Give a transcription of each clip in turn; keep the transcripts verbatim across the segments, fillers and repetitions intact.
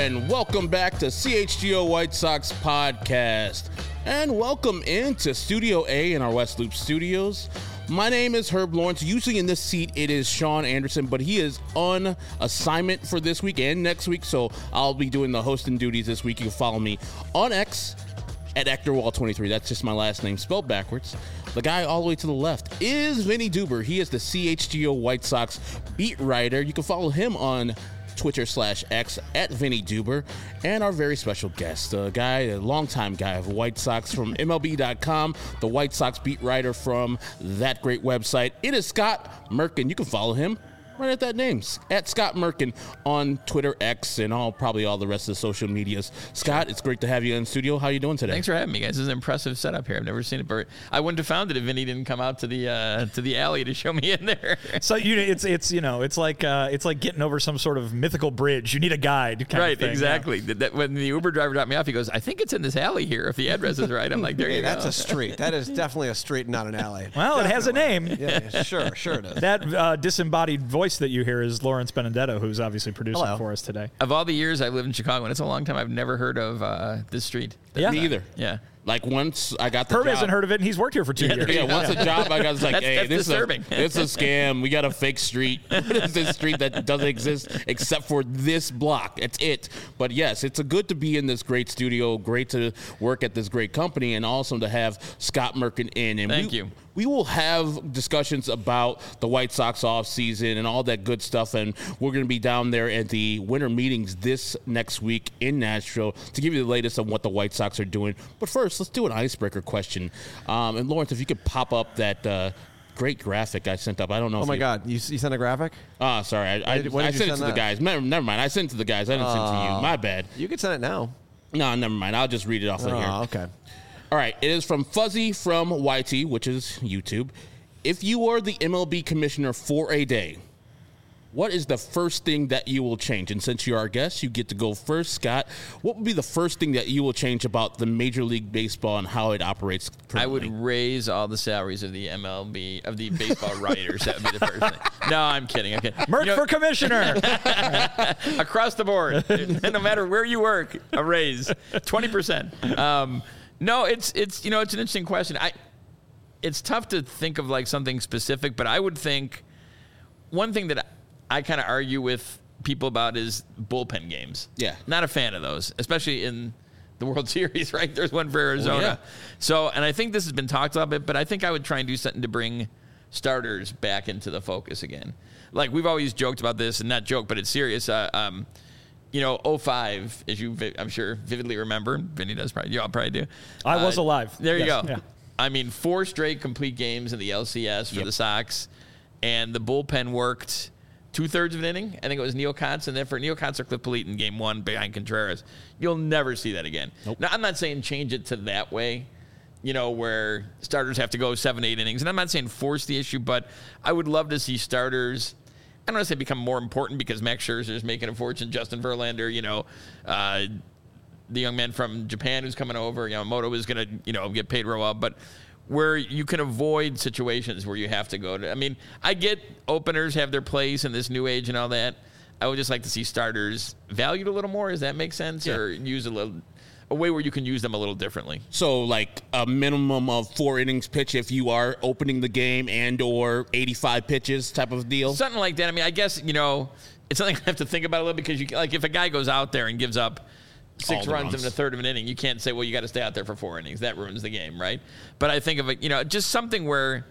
and welcome back to C H G O White Sox Podcast. And welcome into Studio A in our West Loop Studios. My name is Herb Lawrence. Usually in this seat, it is Sean Anderson, but he is on assignment for this week and next week, so I'll be doing the hosting duties this week. You can follow me on X at Ectorwall twenty-three. That's just my last name spelled backwards. The guy all the way to the left is Vinny Duber. He is the C H G O White Sox beat writer. You can follow him on Twitter slash X at Vinny Duber. And our very special guest, a guy, a longtime guy of White Sox from M L B dot com, the White Sox beat writer from that great website. It is Scott Merkin. You can follow him right at that name, at Scott Merkin on Twitter, X, and all probably all the rest of the social medias. Scott, it's great to have you in the studio. How are you doing today? Thanks for having me, guys. This is an impressive setup here. I've never seen it, but I wouldn't have found it if Vinny didn't come out to the uh, to the alley to show me in there. So you, it's it's you know, it's like uh, it's like getting over some sort of mythical bridge. You need a guide, kind right? of thing, Exactly. Yeah. That, when the Uber driver dropped me off, he goes, "I think it's in this alley here. If the address is right." I'm like, "There you hey, go." That's a street. That is definitely a street, not an alley. Well, definitely. It has a name. Yeah, sure, sure it is. That uh, disembodied voice that you hear is Lawrence Benedetto, who's obviously producing Hello. for us today. Of all the years I've lived in Chicago, and it's a long time, I've never heard of uh, this street. Yeah. Me either. Yeah. Like once I got the Herb job. hasn't heard of it, and he's worked here for two Yeah, years. Yeah, once a job I got, it's like, That's- hey, that's this is, a, disturbing. this is a scam. We got a fake street. What is this street that doesn't exist except for this block? That's it. But yes, it's a good to be in this great studio, great to work at this great company, and also to have Scott Merkin in. And Thank we, you. We will have discussions about the White Sox offseason and all that good stuff, and we're going to be down there at the winter meetings this next week in Nashville to give you the latest on what the White Sox are doing. But first, let's do an icebreaker question. Um, and Lawrence, if you could pop up that uh, great graphic I sent up. I don't know Oh if my you, God, you, you sent a graphic? Ah, sorry. I, I, did- when I did you sent it to send the that? guys. Never, never mind. I sent it to the guys. I didn't send it to you. My bad. You can send it now. No, never mind. I'll just read it off of here. Oh, okay. All right, it is from Fuzzy from Y T, which is YouTube. If you are the M L B commissioner for a day, what is the first thing that you will change? And since you're our guest, you get to go first, Scott. What would be the first thing that you will change about the Major League Baseball and how it operates currently? I would raise all the salaries of the M L B, of the baseball writers. That would be the first thing. No, I'm kidding. Okay. Merck You know, for commissioner. across the board, no matter where you work, a raise, twenty percent. Um, no, it's it's you know it's an interesting question. I it's tough to think of like something specific, but I would think one thing that I kind of argue with people about is bullpen games. Yeah. Not a fan of those, especially in the World Series, right? There's one for Arizona. Oh, yeah. So, and I think this has been talked about a bit, but I think I would try and do something to bring starters back into the focus again. Like we've always joked about this, and not joke, but it's serious. Uh, um, you know, oh five, as you, vi- I'm sure, vividly remember. Vinny does probably, you all probably do. I was Uh, alive. There you Yes, go. yeah. I mean, four straight complete games in the L C S for Yep. the Sox, and the bullpen worked two-thirds of an inning. I think it was Neil Kotz, and then for Neil Kotz or Cliff Polite in game one behind Contreras. You'll never see that again. Nope. Now, I'm not saying change it to that way, you know, where starters have to go seven, eight innings. And I'm not saying force the issue, but I would love to see starters, I don't want to say become more important because Max Scherzer is making a fortune, Justin Verlander, you know, uh, the young man from Japan who's coming over, Yamamoto is going to, you know, get paid real well, but where you can avoid situations where you have to go to, I mean, I get openers have their place in this new age and all that. I would just like to see starters valued a little more. Does that make sense? Yeah. Or use a little, a way where you can use them a little differently. So like a minimum of four innings pitch if you are opening the game and or eighty-five pitches type of deal? Something like that. I mean, I guess, you know, it's something I have to think about a little because you like if a guy goes out there and gives up six All the runs, runs. in a third of an inning, you can't say, well, you got to stay out there for four innings. That ruins the game, right? But I think of it, you know, just something where,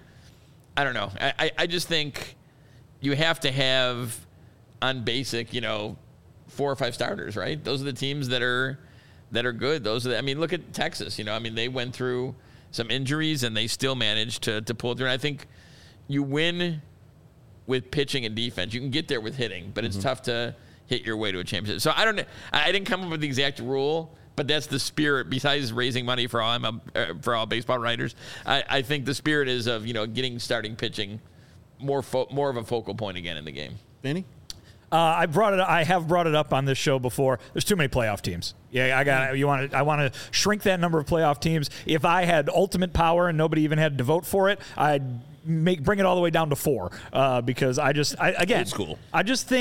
I don't know. I, I, I just think you have to have on basic, you know, four or five starters, right? Those are the teams that are that are good. Those are the, I mean, look at Texas. You know, I mean, they went through some injuries and they still managed to to pull through. And I think you win with pitching and defense. You can get there with hitting, but it's Mm-hmm. tough to hit your way to a championship. So I don't know. I didn't come up with the exact rule, but that's the spirit. Besides raising money for all uh, for all baseball writers, I, I think the spirit is of you know getting starting pitching more fo- more of a focal point again in the game. Benny? Uh, I brought it. I have brought it up on this show before. There's too many playoff teams. Yeah, I got. You want to? I want to shrink that number of playoff teams. If I had ultimate power and nobody even had to vote for it, I'd make bring it all the way down to four. Uh, because I just, I, again, Old school. I just think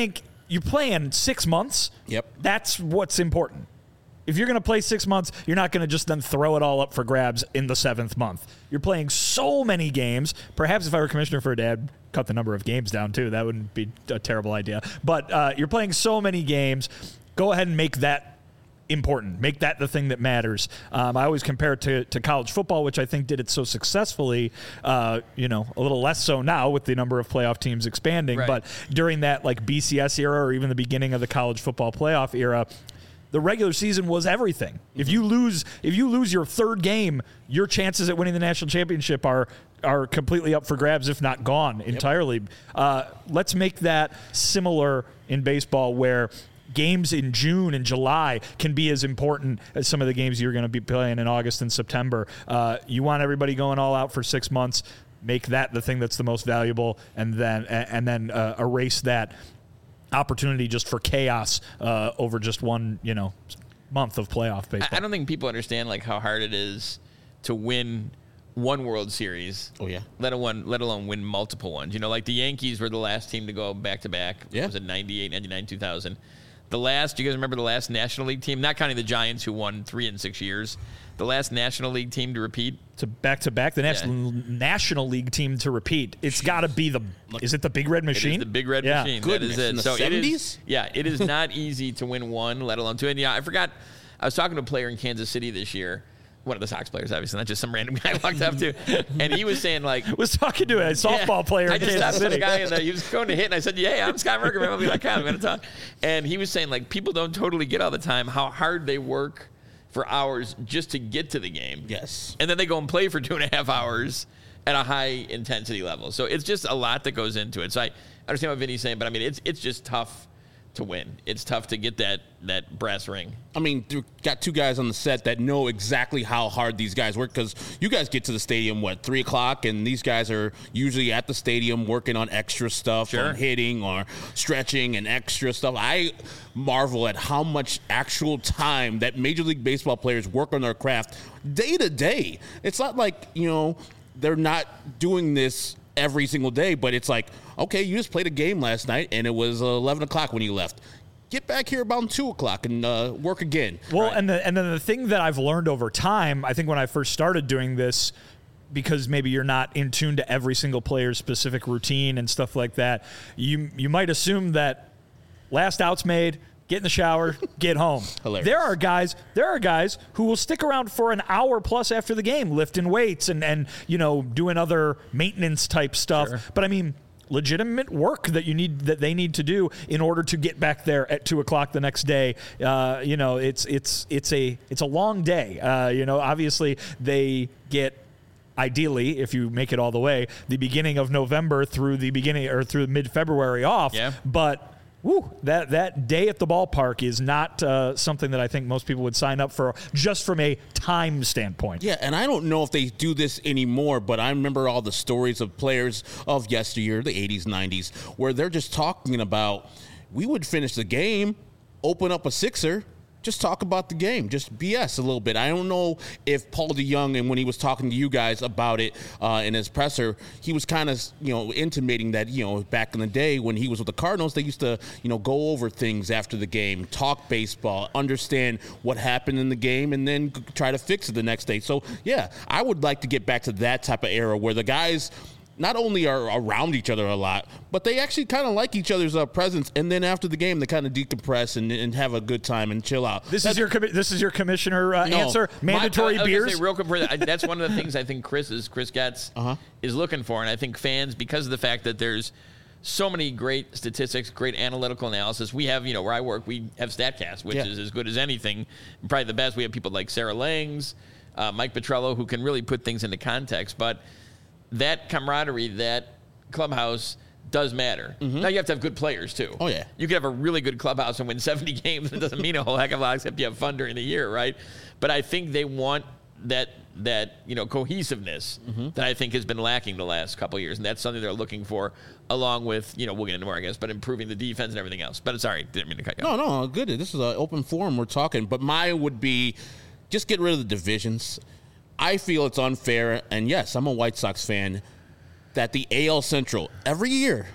you're playing six months. Yep. That's what's important. If you're going to play six months, you're not going to just then throw it all up for grabs in the seventh month. You're playing so many games. Perhaps if I were commissioner for a dad, cut the number of games down too. That wouldn't be a terrible idea. But uh, you're playing so many games. Go ahead and make that important. Make that the thing that matters. Um, I always compare it to, to college football, which I think did it so successfully, uh, you know, a little less so now with the number of playoff teams expanding. Right. But during that like B C S era or even the beginning of the college football playoff era, the regular season was everything. Mm-hmm. If you lose, if you lose your third game, your chances at winning the national championship are are completely up for grabs, if not gone entirely. Yep. Uh, let's make that similar in baseball, where games in June and July can be as important as some of the games you're going to be playing in August and September. Uh, you want everybody going all out for six months. Make that the thing that's the most valuable, and then and then uh, erase that opportunity just for chaos uh, over just one, you know, month of playoff baseball. I don't think people understand like how hard it is to win one World Series. Oh yeah. Let alone let alone win multiple ones. You know, like the Yankees were the last team to go back to back. Yeah. It was in ninety-eight, ninety-nine, two thousand. The last, do you guys remember the last National League team? Not counting the Giants, who won three in six years. The last National League team to repeat. To back to back, the National yeah. National League team to repeat. It's got to be the. Is it the Big Red Machine? It is the Big Red yeah. Machine. Goodness, that is it. in the so seventies? It is, yeah, it is not easy to win one, let alone two. And yeah, I forgot. I was talking to a player in Kansas City this year. One of the Sox players, obviously, not just some random guy I walked up to. And he was saying, like... was talking to a softball yeah, player I in just Kansas stopped City. with a guy, and uh, he was going to hit, and I said, yeah, I'm Scott Merker, M L B dot com. I'm going to talk. And he was saying, like, people don't totally get all the time how hard they work for hours just to get to the game. Yes. And then they go and play for two and a half hours at a high intensity level. So it's just a lot that goes into it. So I understand what Vinny's saying, but I mean, it's it's just tough to win. It's tough to get that that brass ring. I mean, you got two guys on the set that know exactly how hard these guys work, because you guys get to the stadium, what, three o'clock, and these guys are usually at the stadium working on extra stuff, sure. on hitting or stretching and extra stuff. I marvel at how much actual time that Major League Baseball players work on their craft day to day. It's not like, you know, they're not doing this every single day, but it's like, okay, you just played a game last night and it was eleven o'clock when you left. Get back here about two o'clock and uh, work again. Well, right. and the, and then the thing that I've learned over time, I think when I first started doing this, because maybe you're not in tune to every single player's specific routine and stuff like that, you you might assume that last out's made, get in the shower, get home. Hilarious. There are guys, there are guys who will stick around for an hour plus after the game, lifting weights and, and you know, doing other maintenance type stuff. Sure. But I mean, legitimate work that you need, that they need to do in order to get back there at two o'clock the next day. Uh, you know, it's it's it's a it's a long day. Uh, you know, obviously they get, ideally, if you make it all the way, the beginning of November through the beginning or through mid-February off. Yeah. But woo, that that day at the ballpark is not uh, something that I think most people would sign up for just from a time standpoint. Yeah, and I don't know if they do this anymore, but I remember all the stories of players of yesteryear, the eighties, nineties, where they're just talking about, we would finish the game, open up a sixer, just talk about the game, just B S a little bit. I don't know if Paul DeYoung, and when he was talking to you guys about it uh, in his presser, he was kind of, you know, intimating that, you know, back in the day when he was with the Cardinals, they used to, you know, go over things after the game, talk baseball, understand what happened in the game, and then try to fix it the next day. So, yeah, I would like to get back to that type of era where the guys not only are around each other a lot, but they actually kind of like each other's uh, presence. And then after the game, they kind of decompress and, and have a good time and chill out. This That's, is your commi- this is your commissioner uh, No. answer. Mandatory My, I was beers. gonna say real quick, for that, that's one of the things I think Chris is Chris Getz Uh-huh. is looking for, and I think fans, because of the fact that there's so many great statistics, great analytical analysis. We have, you know, where I work, we have StatCast, which Yeah. is as good as anything, probably the best. We have people like Sarah Langs, uh, Mike Petrello, who can really put things into context. But that camaraderie, that clubhouse does matter. Mm-hmm. Now you have to have good players too. Oh yeah. You could have a really good clubhouse and win seventy games. It doesn't mean a whole heck of a lot except you have fun during the year, right? But I think they want that that you know cohesiveness mm-hmm. that I think has been lacking the last couple of years, and that's something they're looking for, along with, you know, we'll get into more, I guess, but improving the defense and everything else. But sorry, didn't mean to cut you No, off. no, good. This is an open forum. We're talking. But mine would be just get rid of the divisions. I feel it's unfair, and yes, I'm a White Sox fan, that the A L Central, every year,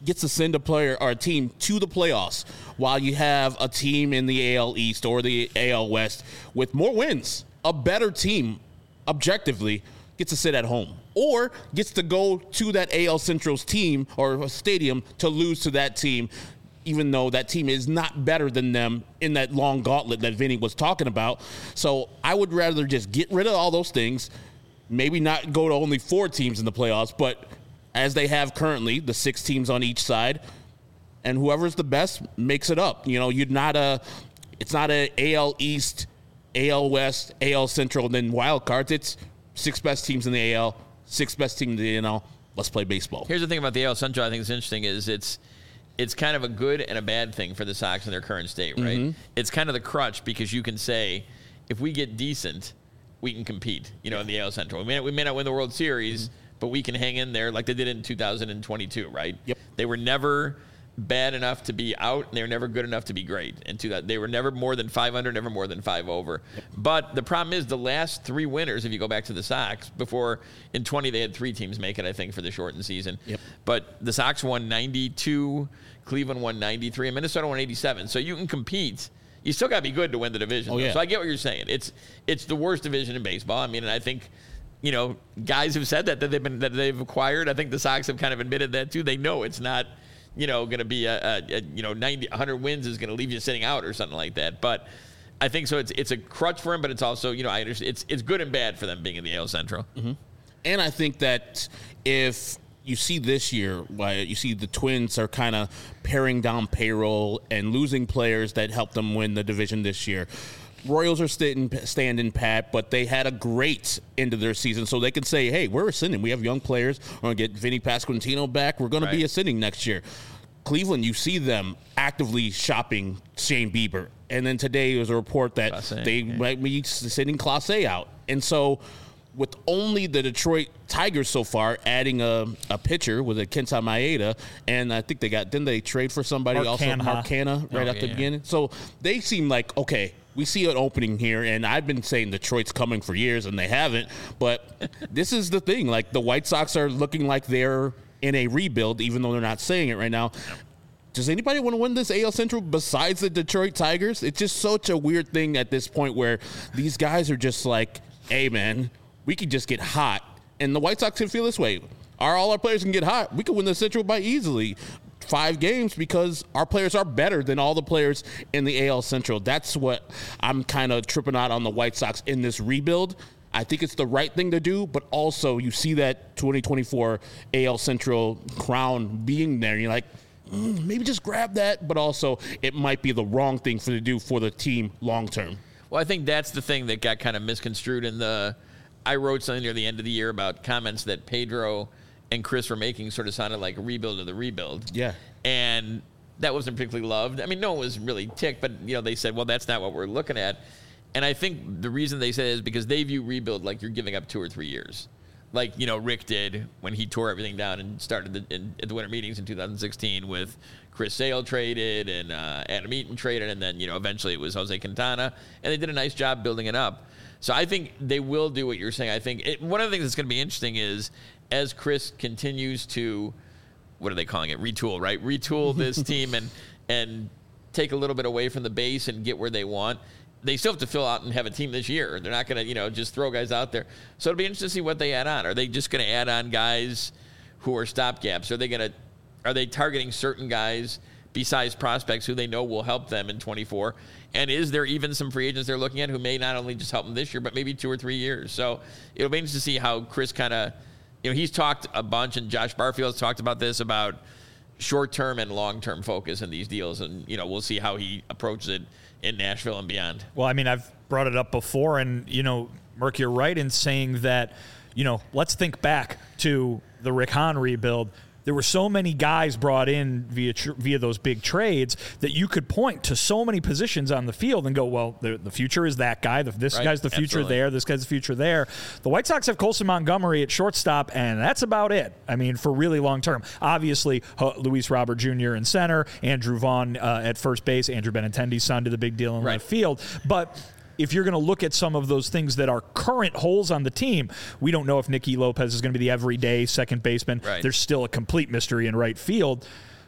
gets to send a player or a team to the playoffs while you have a team in the A L East or the A L West with more wins, a better team objectively gets to sit at home or gets to go to that A L Central's team or stadium to lose to that team, even though that team is not better than them in that long gauntlet that Vinny was talking about. So I would rather just get rid of all those things, maybe not go to only four teams in the playoffs, but as they have currently, the six teams on each side, and whoever's the best makes it up. You know, you're not a, it's not a A L East, A L West, A L Central, and then wild cards. It's six best teams in the A L, six best teams in the N L. Let's play baseball. Here's the thing about the A L Central I think is interesting is it's it's kind of a good and a bad thing for the Sox in their current state, right? Mm-hmm. It's kind of the crutch because you can say, if we get decent, we can compete, you know, yeah. in the A L Central. We may, not, we may not win the World Series, mm-hmm. but we can hang in there like they did in two thousand twenty-two, right? Yep. They were never bad enough to be out, and they were never good enough to be great. And to that, they were never more than five under, never more than five over. Yep. But the problem is the last three winners, if you go back to the Sox, before in twenty they had three teams make it, I think, for the shortened season. Yep. But the Sox won ninety-two, Cleveland won ninety-three, and Minnesota won eighty-seven. So you can compete. You still got to be good to win the division. Oh, yeah. So I get what you're saying. It's it's the worst division in baseball. I mean, and I think, you know, guys who've said that that they've been that they've acquired. I think the Sox have kind of admitted that too. They know it's not, you know, going to be a, a, a you know ninety, one hundred wins is going to leave you sitting out or something like that. But I think so. It's it's a crutch for them, but it's also, you know, I understand it's it's good and bad for them being in the A L Central. Mm-hmm. And I think that if you see this year, you see the Twins are kind of paring down payroll and losing players that helped them win the division this year. Royals are standing, standing pat, but they had a great end of their season, so they can say, hey, we're ascending. We have young players. We're going to get Vinny Pasquantino back. We're going right. to be ascending next year. Cleveland, you see them actively shopping Shane Bieber. And then today was a report that Class A, they yeah. might be sending Class A out. And so with only the Detroit Tigers so far adding a, a pitcher with a Kenta Maeda, and I think they got, didn't they trade for somebody Mark also? Canha. Mark Canha right oh, at yeah, the yeah. beginning. So they seem like, okay, we see an opening here, and I've been saying Detroit's coming for years, and they haven't. But this is the thing. Like, the White Sox are looking like they're in a rebuild, even though they're not saying it right now. Does anybody want to win this A L Central besides the Detroit Tigers? It's just such a weird thing at this point where these guys are just like, hey, man, we could just get hot. And the White Sox can feel this way. Our, all our players can get hot. We could win the Central by easily five games because our players are better than all the players in the A L Central. That's what I'm kind of tripping out on the White Sox in this rebuild. I think it's the right thing to do, but also you see that twenty twenty-four A L Central crown being there, and you're like, mm, maybe just grab that, but also it might be the wrong thing for to do for the team long term. Well, I think that's the thing that got kind of misconstrued in the – I wrote something near the end of the year about comments that Pedro and Chris were making sort of sounded like a rebuild of the rebuild. Yeah. And that wasn't particularly loved. I mean, no one was really ticked, but, you know, they said, well, that's not what we're looking at. And I think the reason they said it is because they view rebuild like you're giving up two or three years. Like, you know, Rick did when he tore everything down and started the, in, at the winter meetings in two thousand sixteen with Chris Sale traded and uh, Adam Eaton traded, and then, you know, eventually it was Jose Quintana. And they did a nice job building it up. So I think they will do what you're saying. I think it, one of the things that's going to be interesting is as Chris continues to, what are they calling it, retool, right? Retool this team and and take a little bit away from the base and get where they want. They still have to fill out and have a team this year. They're not going to, you know, just throw guys out there. So it'll be interesting to see what they add on. Are they just going to add on guys who are stopgaps? Are they going to, are they targeting certain guys besides prospects who they know will help them in twenty-four? And is there even some free agents they're looking at who may not only just help them this year, but maybe two or three years? So it'll be interesting to see how Chris kind of, you know, he's talked a bunch, and Josh Barfield's talked about this, about short-term and long-term focus in these deals. And, you know, we'll see how he approaches it in Nashville and beyond. Well, I mean, I've brought it up before, and, you know, Merck, you're right in saying that, you know, let's think back to the Rick Hahn rebuild. There were so many guys brought in via tr- via those big trades that you could point to so many positions on the field and go, well, the, the future is that guy. The, this right. guy's the future Absolutely. there. This guy's the future there. The White Sox have Colson Montgomery at shortstop, and that's about it. I mean, for really long term. Obviously, uh, Luis Robert Junior in center, Andrew Vaughn uh, at first base, Andrew Benintendi's son to the big deal in right. left field. But if you're going to look at some of those things that are current holes on the team, we don't know if Nicky Lopez is going to be the everyday second baseman. Right. There's still a complete mystery in right field.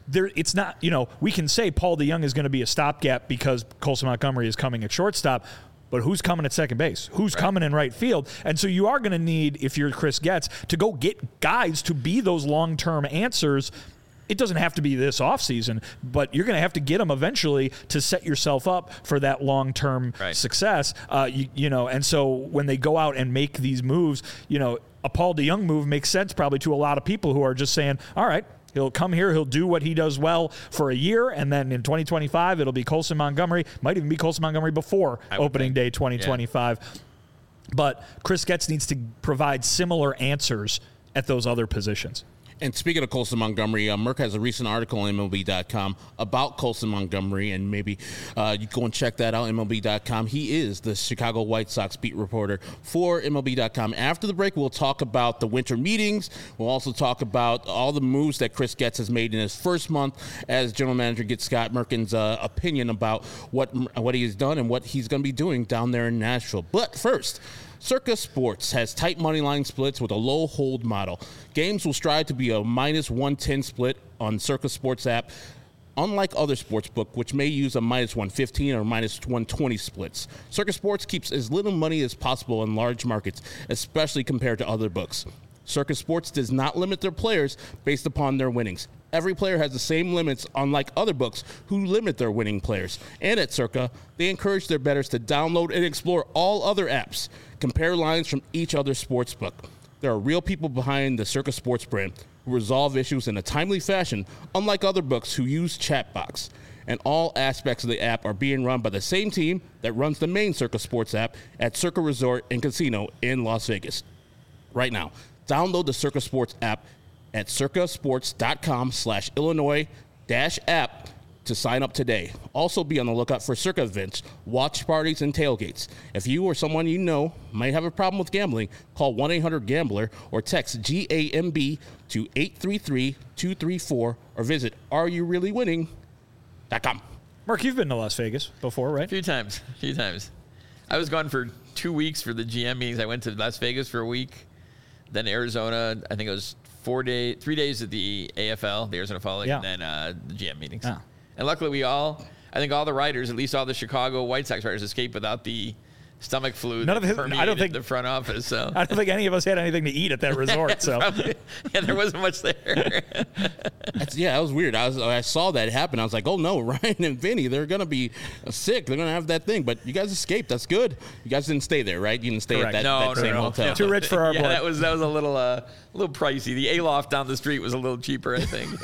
there, it's not, you know, we can say Paul DeJong is going to be a stopgap because Colson Montgomery is coming at shortstop, but who's coming at second base? Who's right. coming in right field? And so you are going to need, if you're Chris Getz, to go get guys to be those long-term answers. It doesn't have to be this offseason, but you're going to have to get them eventually to set yourself up for that long-term right. success. Uh, you, you know, and so when they go out and make these moves, you know, a Paul DeJong move makes sense probably to a lot of people who are just saying, all right, he'll come here, he'll do what he does well for a year, and then in twenty twenty-five, it'll be Colson Montgomery. Might even be Colson Montgomery before opening think. day twenty twenty-five. Yeah. But Chris Getz needs to provide similar answers at those other positions. And speaking of Colson Montgomery, uh, Merck has a recent article on M L B dot com about Colson Montgomery, and maybe uh, you go and check that out, M L B dot com. He is the Chicago White Sox beat reporter for M L B dot com. After the break, we'll talk about the winter meetings. We'll also talk about all the moves that Chris Getz has made in his first month as general manager, get Scott Merkin's uh, opinion about what, what he has done and what he's going to be doing down there in Nashville. But first, Circa Sports has tight money line splits with a low hold model. Games will strive to be a minus one ten split on Circa Sports app, unlike other sportsbook, which may use a minus one fifteen or minus one twenty splits. Circa Sports keeps as little money as possible in large markets, especially compared to other books. Circa Sports does not limit their players based upon their winnings. Every player has the same limits, unlike other books who limit their winning players. And at Circa, they encourage their bettors to download and explore all other apps. Compare lines from each other sports book. There are real people behind the Circa Sports brand who resolve issues in a timely fashion, unlike other books who use Chatbox. And all aspects of the app are being run by the same team that runs the main Circa Sports app at Circa Resort and Casino in Las Vegas. Right now, download the Circa Sports app at circasports.com slash Illinois dash app to sign up today. Also be on the lookout for Circa events, watch parties, and tailgates. If you or someone you know might have a problem with gambling, call one eight hundred gambler or text G A M B to eight three three, two three four or visit are you really winning dot com. Mark, you've been to Las Vegas before, right? A few times. A few times. I was gone for two weeks for the G M meetings. I went to Las Vegas for a week, then Arizona. I think it was four days, three days at the A F L, the Arizona Fall League, yeah. and then uh, the G M meetings. Yeah. And luckily, we all, I think all the writers, at least all the Chicago White Sox writers, escaped without the stomach flu None that of his, I don't think the front office. So I don't think any of us had anything to eat at that resort. So probably, yeah, there wasn't much there. That's, yeah, that was weird. I was I saw that happen. I was like, oh no, Ryan and Vinny, they're gonna be sick. They're gonna have that thing. But you guys escaped. That's good. You guys didn't stay there, right? You didn't stay Correct. at that, no, that no, same no. hotel. Yeah. Too rich for our yeah, blood. that was that was a little uh, a little pricey. The Aloft down the street was a little cheaper, I think.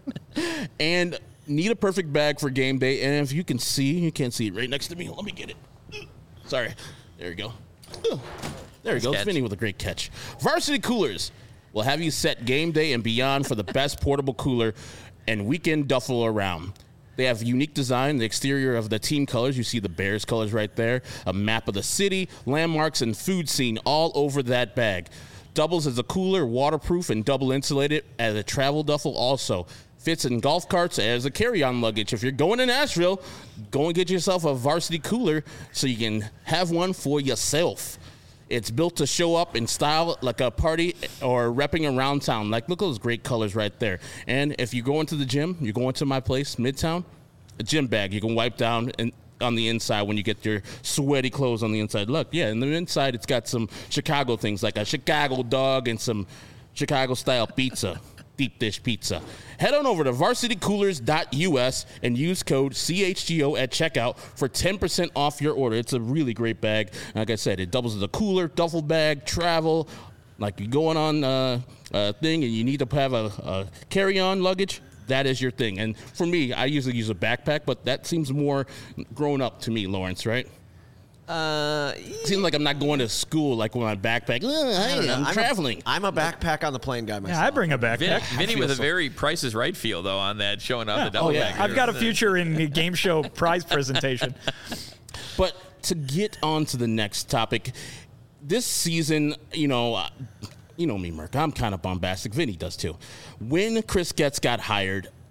And need a perfect bag for game day. And if you can see, you can't see it right next to me. Let me get it. Sorry. There you go. There you go. It's Vinny with a great catch. Varsity Coolers will have you set game day and beyond for the best portable cooler and weekend duffel around. They have unique design, the exterior of the team colors. You see the Bears colors right there, a map of the city, landmarks, and food scene all over that bag. Doubles as a cooler, waterproof, and double insulated as a travel duffel also. Fits in golf carts as a carry-on luggage. If you're going to Nashville, go and get yourself a Varsity Cooler so you can have one for yourself. It's built to show up in style like a party or repping around town. Like, look at those great colors right there. And if you go into the gym, you go into my place, Midtown, a gym bag you can wipe down and on the inside when you get your sweaty clothes on the inside. Look, yeah, and the inside it's got some Chicago things like a Chicago dog and some Chicago-style pizza. Deep dish pizza. Head on over to varsity coolers dot U S and use code C H G O at checkout for ten percent off your order. It's a really great bag. Like I said, it doubles as a cooler, duffel bag, travel. Like you're going on a, a thing and you need to have a, a carry-on luggage, that is your thing. And for me, I usually use a backpack, but that seems more grown up to me, Lawrence, right? Uh, Seems like I'm not going to school like with my backpack. Hey, I'm, I'm traveling. A, I'm a backpack on the plane guy myself. Yeah, I bring a backpack. Vin, Vinny with a so. very Price is Right feel, though, on that, showing off Yeah. the double Oh, yeah. bag. I've got a future in the game show prize presentation. But to get on to the next topic, this season, you know, uh, you know me, Merk, I'm kind of bombastic. Vinny does too. When Chris Getz got hired,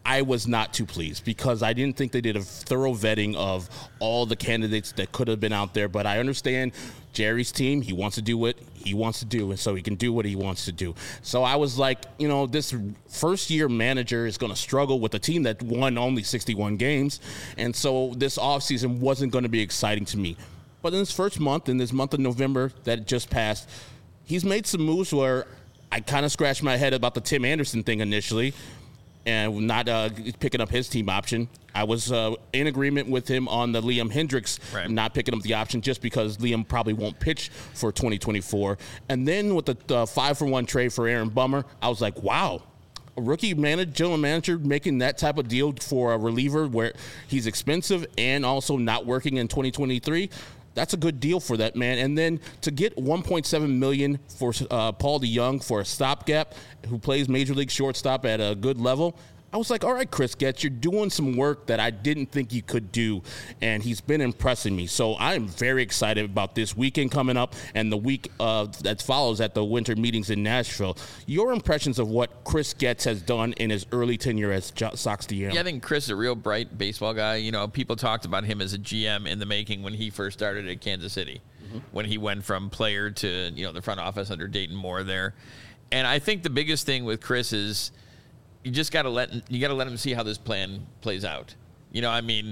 I was not too pleased because I didn't think they did a thorough vetting of all the candidates that could have been out there. But I understand Jerry's team. He wants to do what he wants to do, and so he can do what he wants to do. So I was like, you know, this first-year manager is going to struggle with a team that won only sixty-one games, and so this offseason wasn't going to be exciting to me. But in this first month, in this month of November that just passed, he's made some moves where I kind of scratched my head about the Tim Anderson thing initially and not uh, picking up his team option. I was uh, in agreement with him on the Liam Hendriks right. not picking up the option just because Liam probably won't pitch for twenty twenty-four. And then with the uh, five-for-one trade for Aaron Bummer, I was like, wow. A rookie manager, general manager making that type of deal for a reliever where he's expensive and also not working in twenty twenty-three. That's a good deal for that man. And then to get one point seven million dollars for uh, Paul DeJong for a stopgap who plays major league shortstop at a good level, I was like, all right, Chris Getz, you're doing some work that I didn't think you could do, and he's been impressing me. So I'm very excited about this weekend coming up and the week uh, that follows at the winter meetings in Nashville. Your impressions of what Chris Getz has done in his early tenure as Sox D M? Yeah, I think Chris is a real bright baseball guy. You know, people talked about him as a G M in the making when he first started at Kansas City, mm-hmm. when he went from player to, you know, the front office under Dayton Moore there. And I think the biggest thing with Chris is you just got to let you got to let him see how this plan plays out. You know, I mean,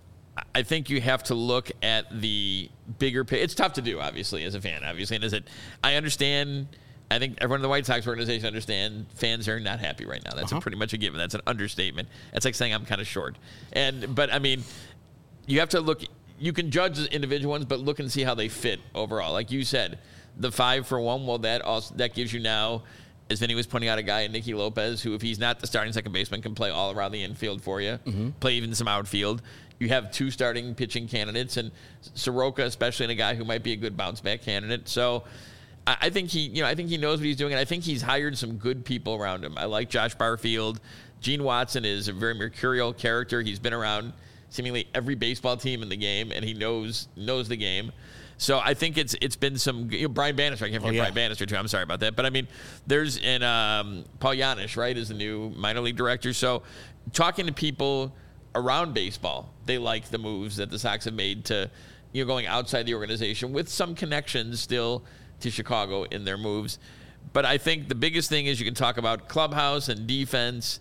I think you have to look at the bigger picture. It's tough to do, obviously, as a fan, obviously. And is it? I understand. I think everyone in the White Sox organization understand fans are not happy right now. That's uh-huh. a pretty much a given. That's an understatement. That's like saying I'm kind of short. And but I mean, you have to look. You can judge the individual ones, but look and see how they fit overall. Like you said, the five for one. Well, that also that gives you now. As Vinny was pointing out, a guy in Nicky Lopez, who, if he's not the starting second baseman, can play all around the infield for you, mm-hmm. play even some outfield. You have two starting pitching candidates, and Soroka, especially, and a guy who might be a good bounce back candidate. So, I, I think he, you know, I think he knows what he's doing, and I think he's hired some good people around him. I like Josh Barfield. Gene Watson is a very mercurial character. He's been around seemingly every baseball team in the game, and he knows knows the game. So I think it's it's been some, you know, Brian Bannister. I can't forget oh, yeah. Brian Bannister too. I'm sorry about that, but I mean, there's and um, Paul Yanish, right, is the new minor league director. So talking to people around baseball, they like the moves that the Sox have made to, you know, going outside the organization with some connections still to Chicago in their moves. But I think the biggest thing is you can talk about clubhouse and defense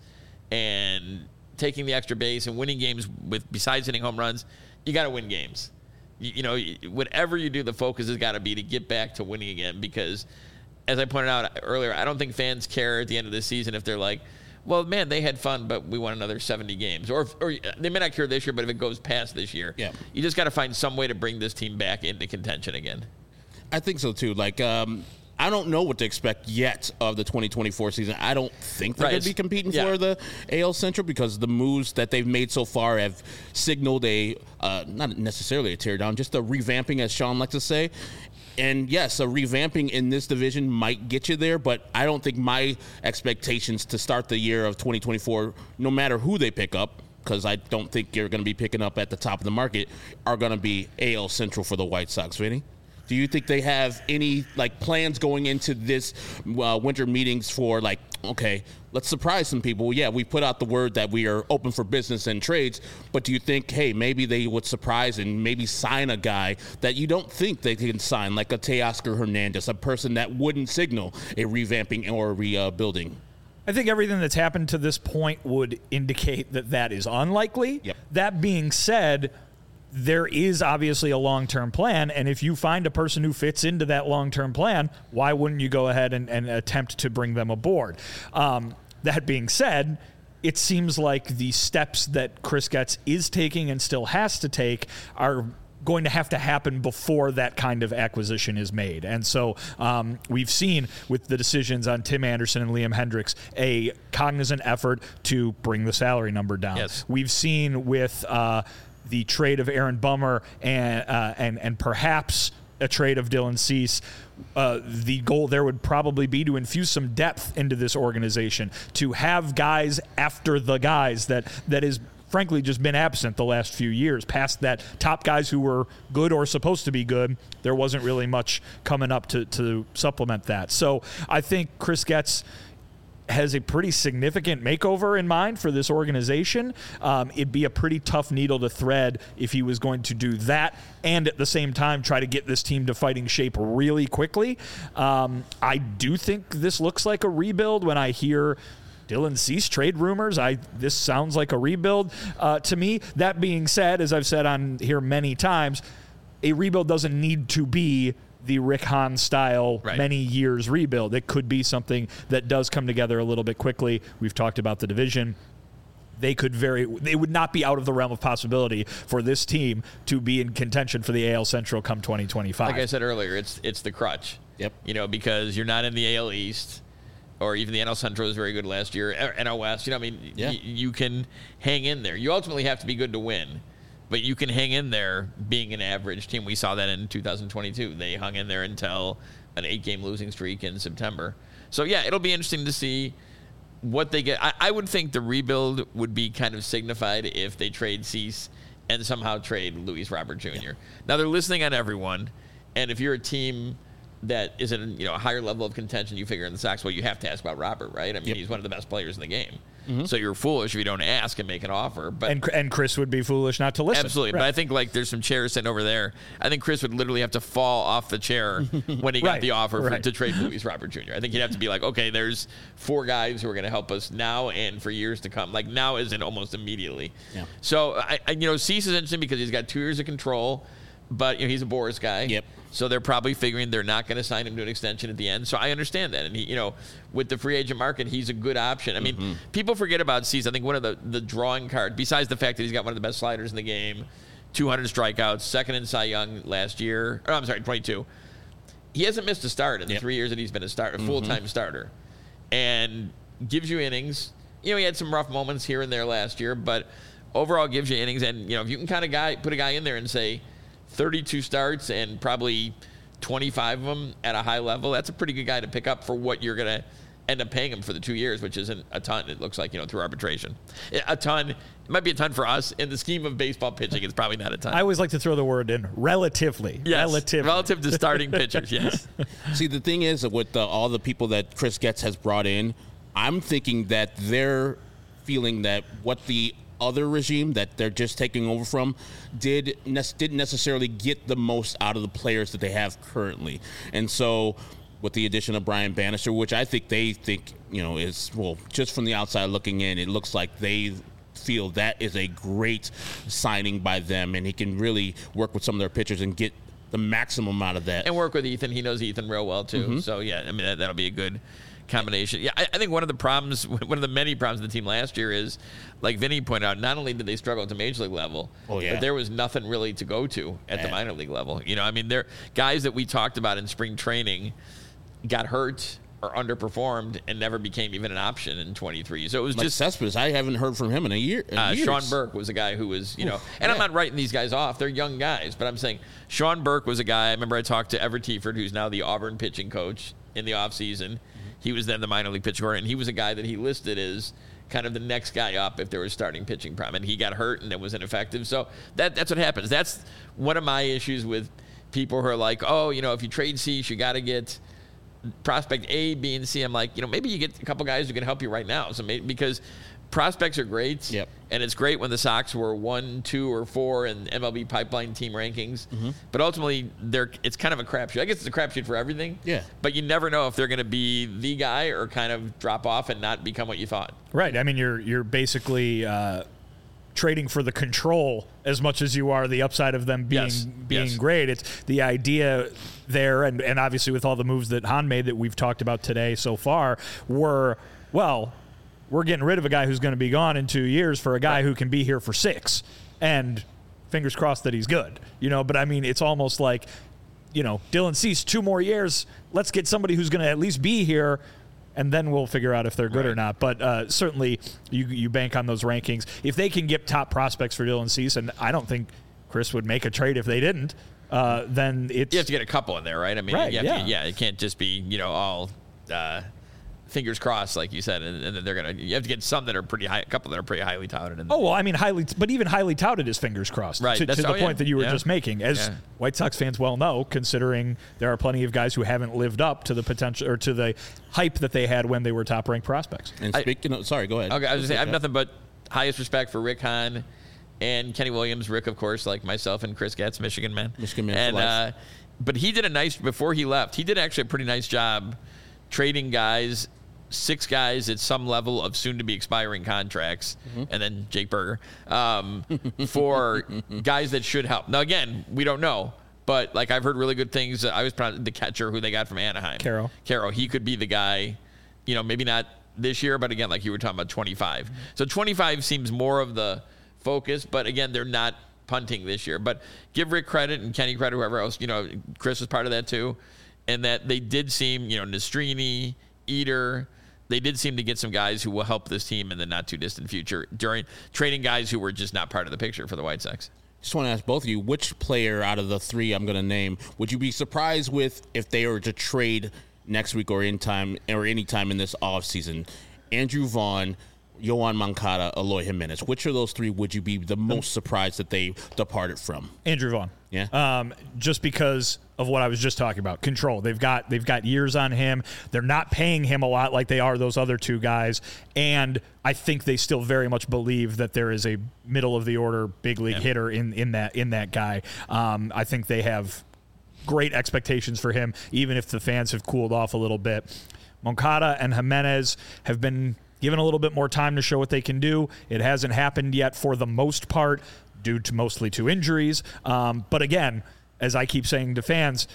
and taking the extra base and winning games with besides hitting home runs. You got to win games. You know, whatever you do, the focus has got to be to get back to winning again because, as I pointed out earlier, I don't think fans care at the end of the season if they're like, well, man, they had fun, but we won another seventy games. Or, if, or they may not care this year, but if it goes past this year, yeah. you just got to find some way to bring this team back into contention again. I think so, too. Like, um, I don't know what to expect yet of the twenty twenty-four season. I don't think they're right. going to be competing yeah. for the A L Central because the moves that they've made so far have signaled a, uh, not necessarily a teardown, just a revamping, as Sean likes to say. And yes, a revamping in this division might get you there, but I don't think my expectations to start the year of twenty twenty-four, no matter who they pick up, because I don't think you're going to be picking up at the top of the market, are going to be A L Central for the White Sox, Vinny. Do you think they have any like plans going into this uh, winter meetings for like, okay, let's surprise some people? Yeah, we put out the word that we are open for business and trades, but do you think, hey, maybe they would surprise and maybe sign a guy that you don't think they can sign, like a Teoscar Hernandez, a person that wouldn't signal a revamping or a rebuilding? I think everything that's happened to this point would indicate that that is unlikely. Yep. That being said, there is obviously a long-term plan, and if you find a person who fits into that long-term plan, why wouldn't you go ahead and, and attempt to bring them aboard? Um, that being said, it seems like the steps that Chris Getz is taking and still has to take are going to have to happen before that kind of acquisition is made. And so um, we've seen with the decisions on Tim Anderson and Liam Hendriks a cognizant effort to bring the salary number down. Yes. We've seen with uh, the trade of Aaron Bummer and uh, and and perhaps a trade of Dylan Cease, uh, the goal there would probably be to infuse some depth into this organization, to have guys after the guys that that is frankly just been absent the last few years. Past that top guys who were good or supposed to be good, there wasn't really much coming up to, to supplement that. So I think Chris Getz has a pretty significant makeover in mind for this organization. Um, it'd be a pretty tough needle to thread if he was going to do that and at the same time try to get this team to fighting shape really quickly. Um, I do think this looks like a rebuild when I hear Dylan Cease trade rumors. I this sounds like a rebuild uh, to me. That being said, as I've said on here many times, a rebuild doesn't need to be the Rick Hahn style right. many years rebuild. It could be something that does come together a little bit quickly. We've talked about the division. They could very, they would not be out of the realm of possibility for this team to be in contention for the A L Central come twenty twenty-five. Like I said earlier, it's it's the crutch. Yep. You know, because you're not in the A L East, or even the N L Central was very good last year. N L West, you know, I mean, yeah. y- you can hang in there. You ultimately have to be good to win, but you can hang in there being an average team. We saw that in two thousand twenty-two. They hung in there until an eight-game losing streak in September. So, yeah, it'll be interesting to see what they get. I, I would think the rebuild would be kind of signified if they trade Cease and somehow trade Luis Robert Junior Yeah. Now, they're listening on everyone, and if you're a team that is in, you know, a higher level of contention, you figure in the Sox, well, you have to ask about Robert, right? I mean, yep. he's one of the best players in the game. Mm-hmm. So you're foolish if you don't ask and make an offer. But and and Chris would be foolish not to listen. Absolutely. Right. But I think, like, there's some chairs sitting over there. I think Chris would literally have to fall off the chair when he got Right. the offer for, Right. to trade Luis Robert Junior I think he'd have to be like, okay, there's four guys who are going to help us now and for years to come. Like, now isn't almost immediately. Yeah. So, I, I, you know, Cease is interesting because he's got two years of control, but, you know, he's a Boris guy. Yep. So they're probably figuring they're not going to sign him to an extension at the end. So I understand that. And, he, you know, with the free agent market, he's a good option. I mean, mm-hmm. people forget about Cease. I think one of the, the drawing cards, besides the fact that he's got one of the best sliders in the game, two hundred strikeouts, second in Cy Young last year. Oh, I'm sorry, twenty-two. He hasn't missed a start in the yep. three years that he's been a start, a full-time mm-hmm. starter. And gives you innings. You know, he had some rough moments here and there last year, but overall gives you innings. And, you know, if you can kind of guy put a guy in there and say, thirty-two starts and probably twenty-five of them at a high level, that's a pretty good guy to pick up for what you're going to end up paying him for the two years, which isn't a ton, it looks like, you know, through arbitration. A ton, it might be a ton for us. In the scheme of baseball pitching, it's probably not a ton. I always like to throw the word in, relatively. Yes, relatively. relative to starting pitchers, yes. See, the thing is, with the, all the people that Chris Getz has brought in, I'm thinking that they're feeling that what the other regime that they're just taking over from did ne- didn't necessarily get the most out of the players that they have currently. And so with the addition of Brian Bannister, which I think they think, you know, is, well, just from the outside looking in, it looks like they feel that is a great signing by them, and he can really work with some of their pitchers and get the maximum out of that. And work with Ethan. He knows Ethan real well, too. Mm-hmm. So, yeah, I mean, that, that'll be a good combination. Yeah, I, I think one of the problems, one of the many problems of the team last year is, like Vinny pointed out, not only did they struggle at the major league level, oh, yeah. but there was nothing really to go to at Man. the minor league level. You know, I mean, there guys that we talked about in spring training got hurt or underperformed and never became even an option in twenty-three. So it was like just Cespedes. I haven't heard from him in a year. In uh, Sean Burke was a guy who was, you know, Oof, and yeah. I'm not writing these guys off. They're young guys, but I'm saying Sean Burke was a guy. I remember I talked to Everett Tieford, who's now the Auburn pitching coach in the offseason. Mm-hmm. He was then the minor league pitcher, and he was a guy that he listed as kind of the next guy up if there was starting pitching problem. And he got hurt and it was ineffective. So that that's what happens. That's one of my issues with people who are like, oh, you know, if you trade Cease, you got to get prospect A, B, and C. I'm like, you know, maybe you get a couple guys who can help you right now. So maybe, because prospects are great, yep. and it's great when the Sox were one, two, or four in M L B pipeline team rankings. Mm-hmm. But ultimately, they're it's kind of a crapshoot. I guess it's a crapshoot for everything. Yeah. But you never know if they're going to be the guy or kind of drop off and not become what you thought. Right. I mean, you're you're basically uh, trading for the control as much as you are the upside of them being yes. being yes. great. It's the idea there, and, and obviously with all the moves that Hahn made that we've talked about today so far, were, well, we're getting rid of a guy who's going to be gone in two years for a guy right. who can be here for six. And fingers crossed that he's good. You know, but I mean, it's almost like, you know, Dylan Cease, two more years. Let's get somebody who's going to at least be here, and then we'll figure out if they're good right. or not. But uh, certainly you you bank on those rankings. If they can get top prospects for Dylan Cease, and I don't think Chris would make a trade if they didn't, uh, then it's... You have to get a couple in there, right? I mean, right, you have yeah. To, yeah, it can't just be, you know, all... Uh, fingers crossed, like you said, and, and they're gonna. You have to get some that are pretty high, a couple that are pretty highly touted. And oh well, I mean, highly, but even highly touted is fingers crossed. Right, To, to the oh, point yeah. that you were yeah. just making, as yeah. White Sox fans well know, considering there are plenty of guys who haven't lived up to the potential or to the hype that they had when they were top ranked prospects. And speaking of, sorry, go ahead. Okay, I was just saying, I have nothing but highest respect for Rick Hahn and Kenny Williams. Rick, of course, like myself and Chris Getz, Michigan man. Michigan man And for life. uh, but he did a nice before he left. He did actually a pretty nice job trading guys, six guys at some level of soon-to-be expiring contracts, mm-hmm. and then Jake Berger um, for guys that should help. Now, again, we don't know. But, like, I've heard really good things. I was proud of the catcher who they got from Anaheim. Caro. Caro. He could be the guy, you know, maybe not this year, but, again, like you were talking about, twenty-five. Mm-hmm. So twenty-five seems more of the focus. But, again, they're not punting this year. But give Rick credit and Kenny credit, whoever else. You know, Chris was part of that, too. And that they did seem, you know, Nastrini, Eater, they did seem to get some guys who will help this team in the not-too-distant future during trading guys who were just not part of the picture for the White Sox. Just want to ask both of you, which player out of the three I'm going to name would you be surprised with if they were to trade next week or in time or any time in this offseason? Andrew Vaughn, Yoan Moncada, Eloy Jimenez. Which of those three would you be the most surprised that they departed from? Andrew Vaughn. Yeah. Um, just because of what I was just talking about. Control. They've got they've got years on him. They're not paying him a lot like they are those other two guys. And I think they still very much believe that there is a middle of the order big league Yeah. hitter in, in that in that guy. Um, I think they have great expectations for him, even if the fans have cooled off a little bit. Moncada and Jimenez have been given a little bit more time to show what they can do. It hasn't happened yet for the most part, due to mostly to injuries. Um, but again, as I keep saying to fans,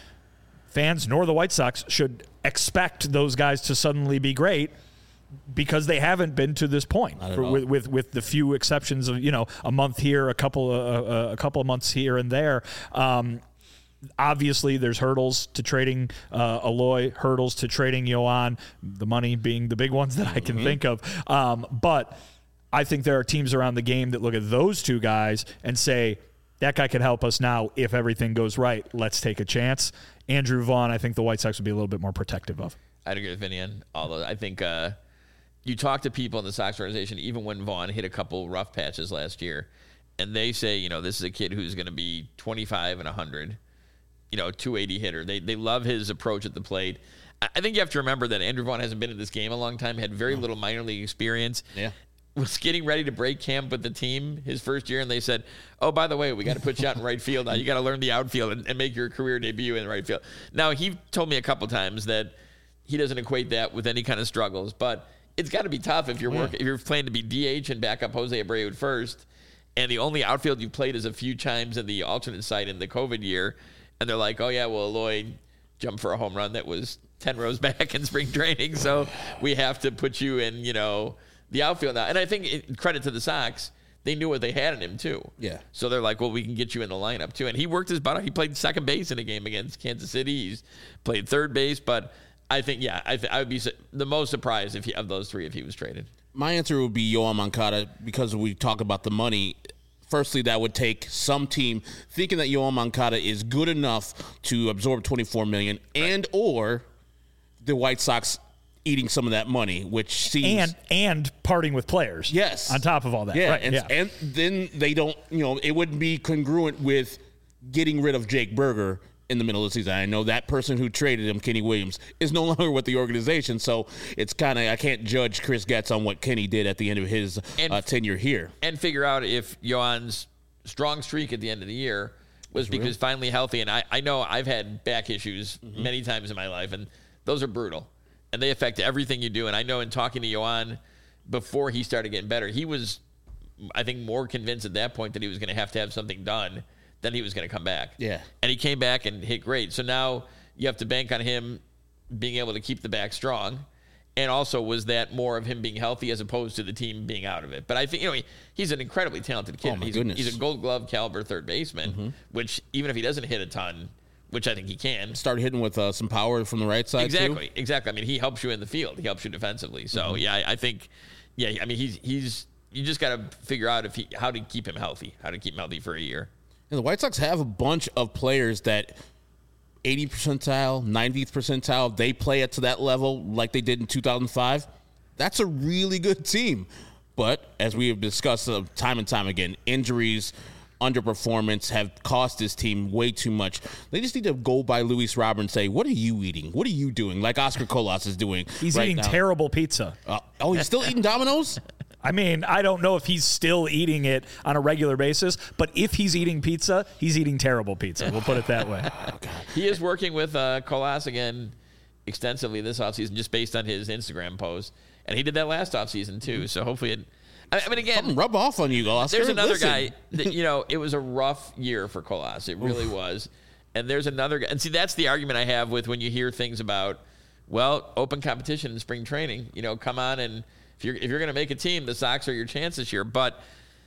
fans nor the White Sox should expect those guys to suddenly be great because they haven't been to this point. Not at For, all. with, with with the few exceptions of, you know, a month here, a couple of, uh, a couple of months here and there. Um, Obviously, there's hurdles to trading uh, Eloy, hurdles to trading Yoan, the money being the big ones that I can Mm-hmm. think of. Um, but I think there are teams around the game that look at those two guys and say, that guy could help us now if everything goes right. Let's take a chance. Andrew Vaughn, I think the White Sox would be a little bit more protective of. I'd agree with Vinny on all of I think uh, you talk to people in the Sox organization, even when Vaughn hit a couple rough patches last year, and they say, you know, this is a kid who's going to be twenty-five and one hundred. You know, two eighty hitter. They they love his approach at the plate. I I think you have to remember that Andrew Vaughn hasn't been in this game a long time, had very little minor league experience. Yeah. Was getting ready to break camp with the team his first year, and they said, oh, by the way, we got to put you out in right field now. You got to learn the outfield and, and make your career debut in the right field. Now, he told me a couple times that he doesn't equate that with any kind of struggles, but it's got to be tough if you're work, if you're playing to be D H and back up Jose Abreu at first, and the only outfield you played is a few times in the alternate site in the COVID year. And they're like, oh, yeah, well, Eloy jumped for a home run that was ten rows back in spring training, so we have to put you in, you know, the outfield now. And I think, it, credit to the Sox, they knew what they had in him, too. Yeah. So they're like, well, we can get you in the lineup, too. And he worked his butt off. He played second base in a game against Kansas City. He's played third base. But I think, yeah, I, th- I would be su- the most surprised if he, of those three if he was traded. My answer would be Yoan Moncada because we talk about the money. Firstly, that would take some team thinking that Yoan Moncada is good enough to absorb twenty-four million dollars and or the White Sox eating some of that money, which seems And and parting with players. Yes. On top of all that. yeah, Right, and, yeah. and then they don't, you know, it wouldn't be congruent with getting rid of Jake Berger in the middle of the season. I know that person who traded him, Kenny Williams, is no longer with the organization, so it's kind of, I can't judge Chris Getz on what Kenny did at the end of his And- uh, tenure here. And figure out if Yoan's strong streak at the end of the year was because finally healthy. And I, I know I've had back issues Mm-hmm. many times in my life, and those are brutal. And they affect everything you do. And I know in talking to Yoan before he started getting better, he was, I think, more convinced at that point that he was going to have to have something done than he was going to come back. Yeah. And he came back and hit great. So now you have to bank on him being able to keep the back strong. And also, was that more of him being healthy as opposed to the team being out of it? But I think, you know, he, he's an incredibly talented kid. Oh, my he's, goodness. he's a Gold Glove caliber third baseman, Mm-hmm. which even if he doesn't hit a ton, which I think he can. Started hitting with uh, some power from the right side, Exactly, too. exactly. I mean, he helps you in the field. He helps you defensively. So, Mm-hmm. yeah, I, I think, yeah, I mean, he's, he's you just got to figure out if he how to keep him healthy, how to keep him healthy for a year. And the White Sox have a bunch of players that eightieth percentile, ninetieth percentile, they play it to that level like they did in two thousand five, that's a really good team. But as we have discussed uh, time and time again, injuries, underperformance have cost this team way too much. They just need to go by Luis Robert and say, what are you eating? What are you doing? Like Oscar Colas is doing. He's right eating now. terrible pizza. Uh, oh, he's still eating Domino's? I mean, I don't know if he's still eating it on a regular basis, but if he's eating pizza, he's eating terrible pizza. We'll put it that way. He is working with uh, Colas again extensively this offseason just based on his Instagram post. And he did that last offseason too. So hopefully it – I mean, again – Something rub off on you, Oscar. There's another Listen. guy that, you know, it was a rough year for Colas. It really was. And there's another guy. And see, that's the argument I have with when you hear things about, well, open competition in spring training. You know, come on and – If you're, if you're going to make a team, the Sox are your chance this year. But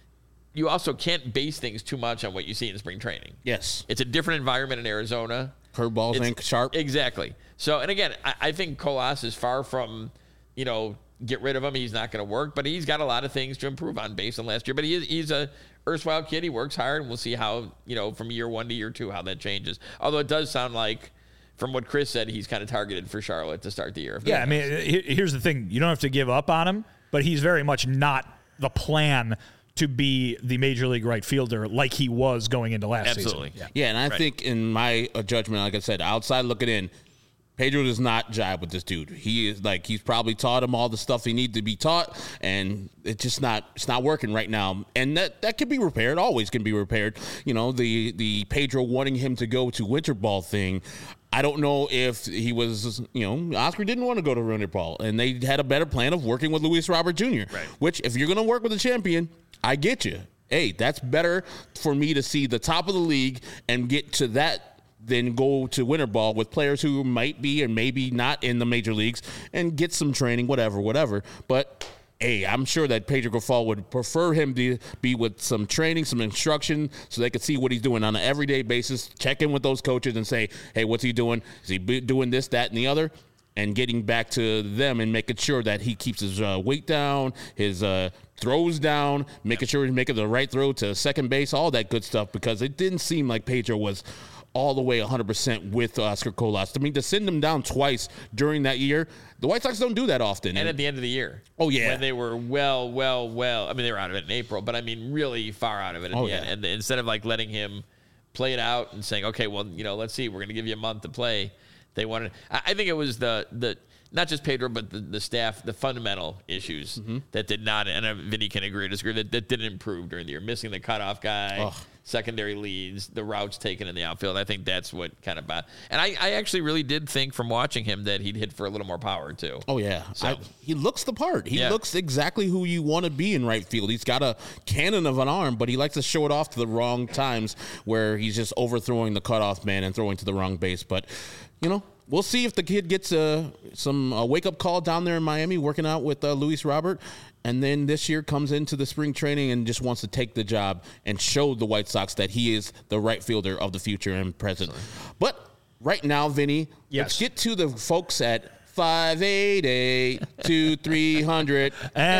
you also can't base things too much on what you see in spring training. Yes. It's a different environment in Arizona. Curveballs It's- ain't sharp. Exactly. So, and again, I, I think Colas is far from, you know, get rid of him. He's not going to work. But he's got a lot of things to improve on based on last year. But he is, he's a erstwhile kid. He works hard. And we'll see how, you know, from year one to year two, how that changes. Although it does sound like, from what Chris said, he's kind of targeted for Charlotte to start the year. Yeah, I mean, he- here's the thing. You don't have to give up on him, but he's very much not the plan to be the major league right fielder like he was going into last Absolutely. season. Yeah, and I Right. think in my uh, judgment, like I said, outside looking in, Pedro does not jive with this dude. He is like he's probably taught him all the stuff he needs to be taught, and it's just not it's not working right now. And that that can be repaired. Always can be repaired. You know, the the Pedro wanting him to go to winter ball thing. I don't know if he was, you know, Oscar didn't want to go to winter ball, and they had a better plan of working with Luis Robert Junior Right. Which, if you're going to work with a champion, I get you. Hey, that's better for me to see the top of the league and get to that than go to winter ball with players who might be and maybe not in the major leagues and get some training, whatever, whatever. But hey, I'm sure that Pedro Grifol would prefer him to be with some training, some instruction, so they could see what he's doing on an everyday basis, check in with those coaches and say, hey, what's he doing? Is he doing this, that, and the other? And getting back to them and making sure that he keeps his uh, weight down, his uh, throws down, making sure he's making the right throw to second base, all that good stuff, because it didn't seem like Pedro was all the way one hundred percent with Oscar Colas. I mean, to send him down twice during that year, the White Sox don't do that often. And at the end of the year. Oh, yeah. When they were well, well, well. I mean, they were out of it in April, but I mean, really far out of it at Oh, the yeah. end. And instead of like letting him play it out and saying, okay, well, you know, let's see, we're going to give you a month to play. They wanted, I I think it was the, the, not just Pedro, but the, the staff, the fundamental issues Mm-hmm. that did not, and uh, Vinny can agree or disagree, that, that didn't improve during the year. Missing the cutoff guy, Ugh. secondary leads, the routes taken in the outfield. I think that's what kind of, bad. And I, I actually really did think from watching him that he'd hit for a little more power too. Oh, yeah. So- I, he looks the part. He Yeah. looks exactly who you want to be in right field. He's got a cannon of an arm, but he likes to show it off to the wrong times where he's just overthrowing the cutoff man and throwing to the wrong base. But, you know, we'll see if the kid gets uh, some uh, wake-up call down there in Miami working out with uh, Luis Robert, and then this year comes into the spring training and just wants to take the job and show the White Sox that he is the right fielder of the future and present. But right now, Vinny, Yes. let's get to the folks at five eight eight, two three hundred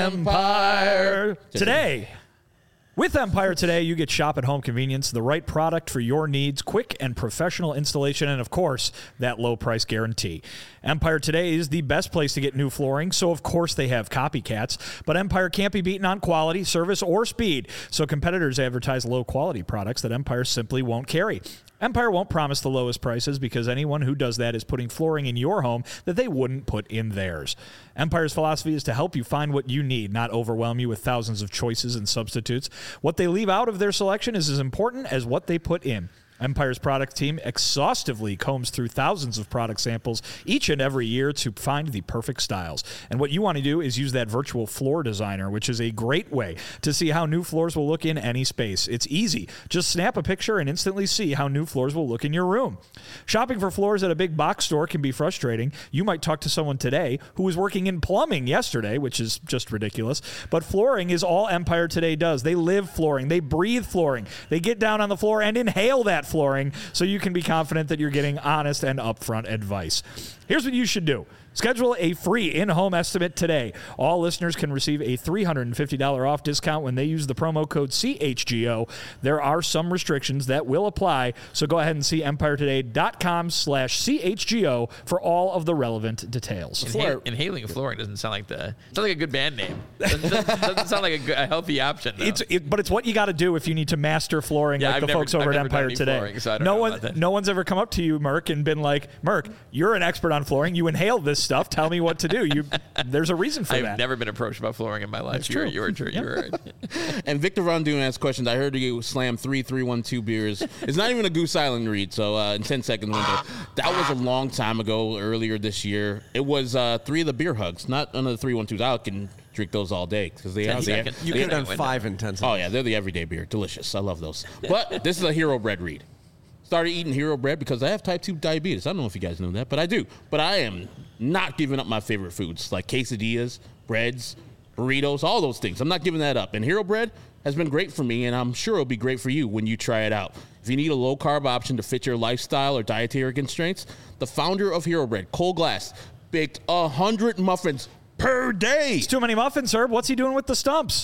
Empire Today. With Empire Today, you get shop at home convenience, the right product for your needs, quick and professional installation, and of course, that low price guarantee. Empire Today is the best place to get new flooring, so of course they have copycats, but Empire can't be beaten on quality, service, or speed, so competitors advertise low quality products that Empire simply won't carry. Empire won't promise the lowest prices because anyone who does that is putting flooring in your home that they wouldn't put in theirs. Empire's philosophy is to help you find what you need, not overwhelm you with thousands of choices and substitutes. What they leave out of their selection is as important as what they put in. Empire's product team exhaustively combs through thousands of product samples each and every year to find the perfect styles. And what you want to do is use that virtual floor designer, which is a great way to see how new floors will look in any space. It's easy. Just snap a picture and instantly see how new floors will look in your room. Shopping for floors at a big box store can be frustrating. You might talk to someone today who was working in plumbing yesterday, which is just ridiculous. But flooring is all Empire Today does. They live flooring. They breathe flooring. They get down on the floor and inhale that flooring so you can be confident that you're getting honest and upfront advice. Here's what you should do. Schedule a free in-home estimate today. All listeners can receive a three hundred fifty dollars off discount when they use the promo code C H G O. There are some restrictions that will apply, so go ahead and see empiretoday.com slash CHGO for all of the relevant details. Inhal- inhaling flooring doesn't sound like the sounds like a good band name. Doesn't, doesn't, doesn't sound like a, good, a healthy option. Though. It's it, but it's what you got to do if you need to master flooring, Yeah, like I've the never- folks over I've at never done Empire any Today. flooring, so I don't no know one, about that. no one's ever come up to you, Merc, and been like, "Merc, you're an expert on flooring. You inhale this stuff. Tell me what to do." You, there's a reason for I've that. never been approached about flooring in my life. That's You're, true. you're true. You're right. And Victor Von Doon asked questions. I heard you slam three three one two beers. It's not even a Goose Island read, so uh, in ten second window. That was a long time ago, earlier this year. It was uh, three of the beer hugs, not none of the three one twos. I can drink those all day because they ten are. They, seconds. You they- could have done window. five in ten seconds. Oh yeah, they're the everyday beer. Delicious. I love those. But this is a Hero Bread read. Started eating Hero Bread because I have type two diabetes. I don't know if you guys know that, but I do. But I am not giving up my favorite foods like quesadillas, breads, burritos, all those things. I'm not giving that up. And Hero Bread has been great for me, and I'm sure it'll be great for you when you try it out. If you need a low-carb option to fit your lifestyle or dietary constraints, the founder of Hero Bread, Cole Glass, baked one hundred muffins per day. It's too many muffins, Herb. What's he doing with the stumps?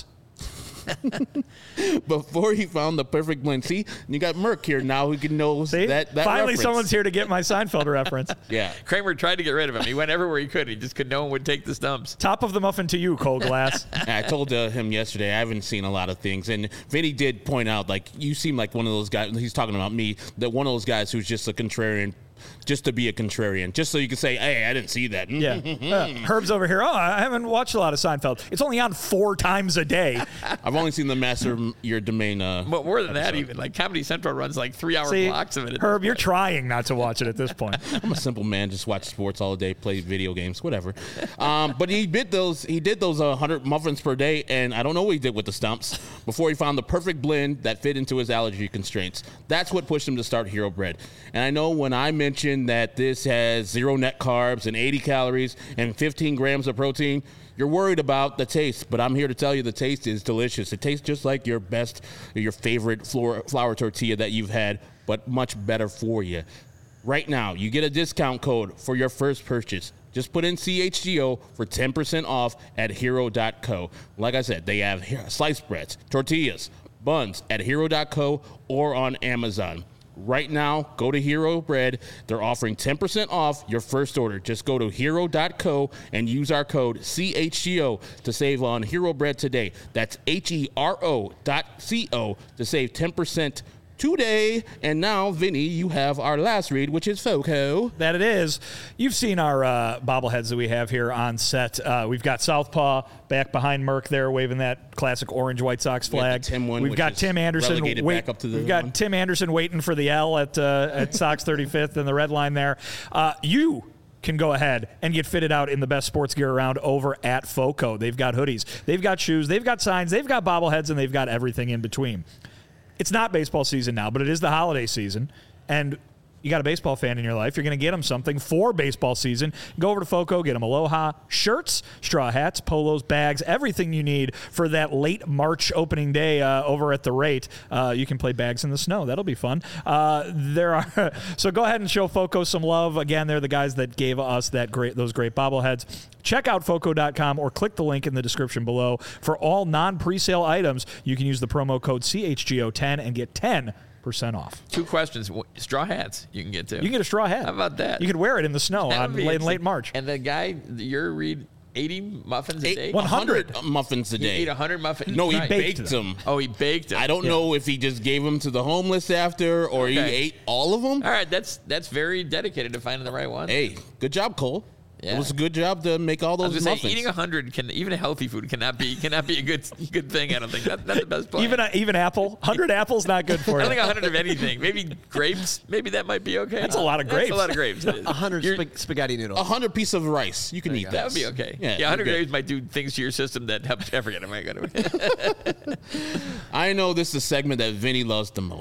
Before he found the perfect blend. See, you got Merc here now who can know See? that, that Finally, reference. someone's here to get my Seinfeld reference. Yeah. Kramer tried to get rid of him. He went everywhere he could. He just could. No one would take the stumps. Top of the muffin to you, Cole Glass. I told uh, him yesterday I haven't seen a lot of things, and Vinny did point out, like, you seem like one of those guys, he's talking about me, that one of those guys who's just a contrarian, just to be a contrarian, just so you can say, hey, I didn't see that. Yeah. Uh, Herb's over here. Oh, I haven't watched a lot of Seinfeld. It's only on four times a day. I've only seen the Master Your Domain. Uh, But more than that, even like Comedy Central runs like three-hour See, blocks of it. at Herb, this you're point. trying not to watch it at this point. I'm a simple man, just watch sports all day, play video games, whatever. Um, but he did those. He did those uh, one hundred muffins per day, and I don't know what he did with the stumps before he found the perfect blend that fit into his allergy constraints. That's what pushed him to start Hero Bread. And I know when I mentioned that this has zero net carbs and eighty calories and fifteen grams of protein, you're worried about the taste, but I'm here to tell you the taste is delicious. It tastes just like your best, your favorite flour, flour tortilla that you've had, but much better for you. Right now, you get a discount code for your first purchase. Just put in C H G O for ten percent off at hero dot co. Like I said, they have sliced breads, tortillas, buns at hero dot co or on Amazon. Right now, go to Hero Bread. They're offering ten percent off your first order. Just go to hero dot co and use our code C H G O to save on Hero Bread today. That's H E R O dot C O to save ten percent today. And now, Vinny, you have our last read, which is Foco. That it is. You've seen our uh, bobbleheads that we have here on set. Uh, we've got Southpaw back behind Merc there, waving that classic orange White Sox We have flag. the Tim one, We've which got is Tim Anderson. relegated Wait, back up to the we've got one. Tim Anderson waiting for the L at uh, at Sox thirty-fifth and the red line there. Uh, you can go ahead and get fitted out in the best sports gear around over at Foco. They've got hoodies, they've got shoes, they've got signs, they've got bobbleheads, and they've got everything in between. It's not baseball season now, but it is the holiday season, and you got a baseball fan in your life, you're going to get them something for baseball season. Go over to Foco, get them Aloha shirts, straw hats, polos, bags, everything you need for that late March opening day uh, over at the rate. Uh, you can play bags in the snow. That'll be fun. Uh, there are so go ahead and show Foco some love. Again, they're the guys that gave us that great those great bobbleheads. Check out foco dot com or click the link in the description below. For all non-presale items, you can use the promo code C H G O ten and get ten percent off. Two questions. Wh- Straw hats you can get too. You can get a straw hat. How about that? You could wear it in the snow That on would be late, in interesting. late March. And the guy, your read eighty muffins a day? Eight, one hundred muffins a He day. ate one hundred muffins. No, he Nice. baked baked them. them. Oh, he baked them. I don't know if he just gave them to the homeless after or he Okay. ate all of them. All right, that's that's very dedicated to finding the right one. Hey, good job, Cole. Yeah. It was a good job to make all I those was gonna muffins. say, eating a hundred can even a healthy food cannot be cannot be a good good thing. I don't think that, that's the best plan. Even a, even apple, one hundred apples not good for I you. think a hundred of anything. Maybe grapes. Maybe that might be okay. That's a lot of That's grapes. a lot of grapes. It is. A hundred You're- sp- spaghetti noodles. a hundred piece of rice. You can eat go. that. That would be okay. Yeah, Yeah, one hundred you're good. grapes might do things to your system that help. I forget. I might go to. I know this is a segment that Vinny loves the most.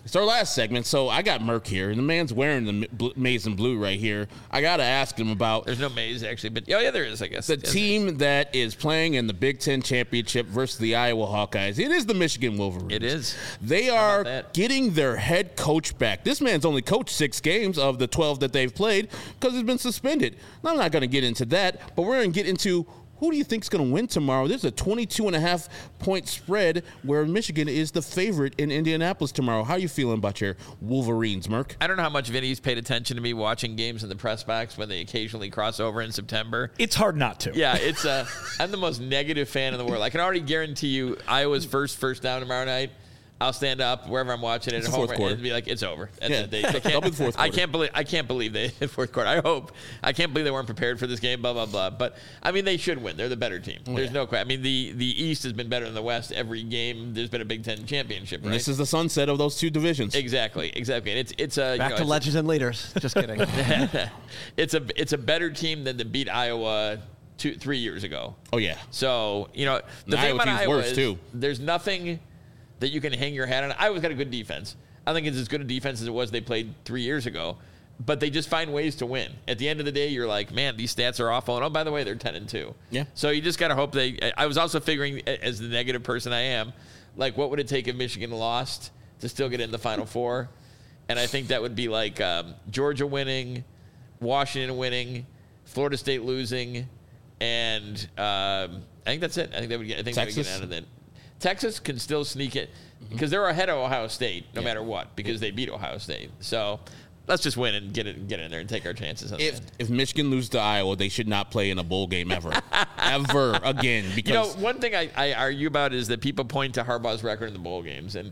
It's our last segment, so I got Merck here, and the man's wearing the bl- maize and blue right here. I got to ask him about There's no maize, actually, but oh, yeah, there is, I guess. the Yes. team that is playing in the Big Ten Championship versus the Iowa Hawkeyes. It is the Michigan Wolverines. It is. They How are about that? getting their head coach back. This man's only coached six games of the twelve that they've played because he's been suspended. Now, I'm not going to get into that, but we're going to get into who do you think is going to win tomorrow? There's a twenty-two and a half point spread where Michigan is the favorite in Indianapolis tomorrow. How are you feeling about your Wolverines, Merck? I don't know how much Vinny's paid attention to me watching games in the press box when they occasionally cross over in September. It's hard not to. Yeah, it's uh, I'm the most negative fan in the world. I can already guarantee you Iowa's first first down tomorrow night. I'll stand up wherever I'm watching it It's at the home fourth quarter. and be like, "It's over." That's Yeah, it. They, they they'll be the fourth I quarter. can't believe I can't believe they hit fourth quarter. I hope I can't believe they weren't prepared for this game. Blah blah blah. But I mean, they should win. They're the better team. Oh, There's yeah. no question. I mean, the the East has been better than the West every game. There's been a Big Ten championship. And Right? this is the sunset of those two divisions. exactly exactly. And it's it's a Back you know, to it's legends and leaders. Just kidding. a, it's a it's a better team than to beat Iowa two three years ago. Oh, yeah. So, you know, the And thing Iowa about team's Iowa worse, is too. there's nothing that you can hang your hat on. Iowa's got a good defense. I think it's as good a defense as it was they played three years ago. But they just find ways to win. At the end of the day, you're like, man, these stats are awful. And oh, by the way, they're ten and two. Yeah. So you just got to hope they. I was also figuring, as the negative person I am, like, what would it take if Michigan lost to still get in the Final Four? And I think that would be like um, Georgia winning, Washington winning, Florida State losing, and um, I think that's it. I think they would get. I think they would Texas? get out of that. Texas can still sneak it because they're ahead of Ohio State no Yeah. matter what because they beat Ohio State. So let's just win and get it, get in there and take our chances. On If that. if Michigan loses to Iowa, they should not play in a bowl game ever, ever again. Because You know, one thing I, I argue about is that people point to Harbaugh's record in the bowl games, and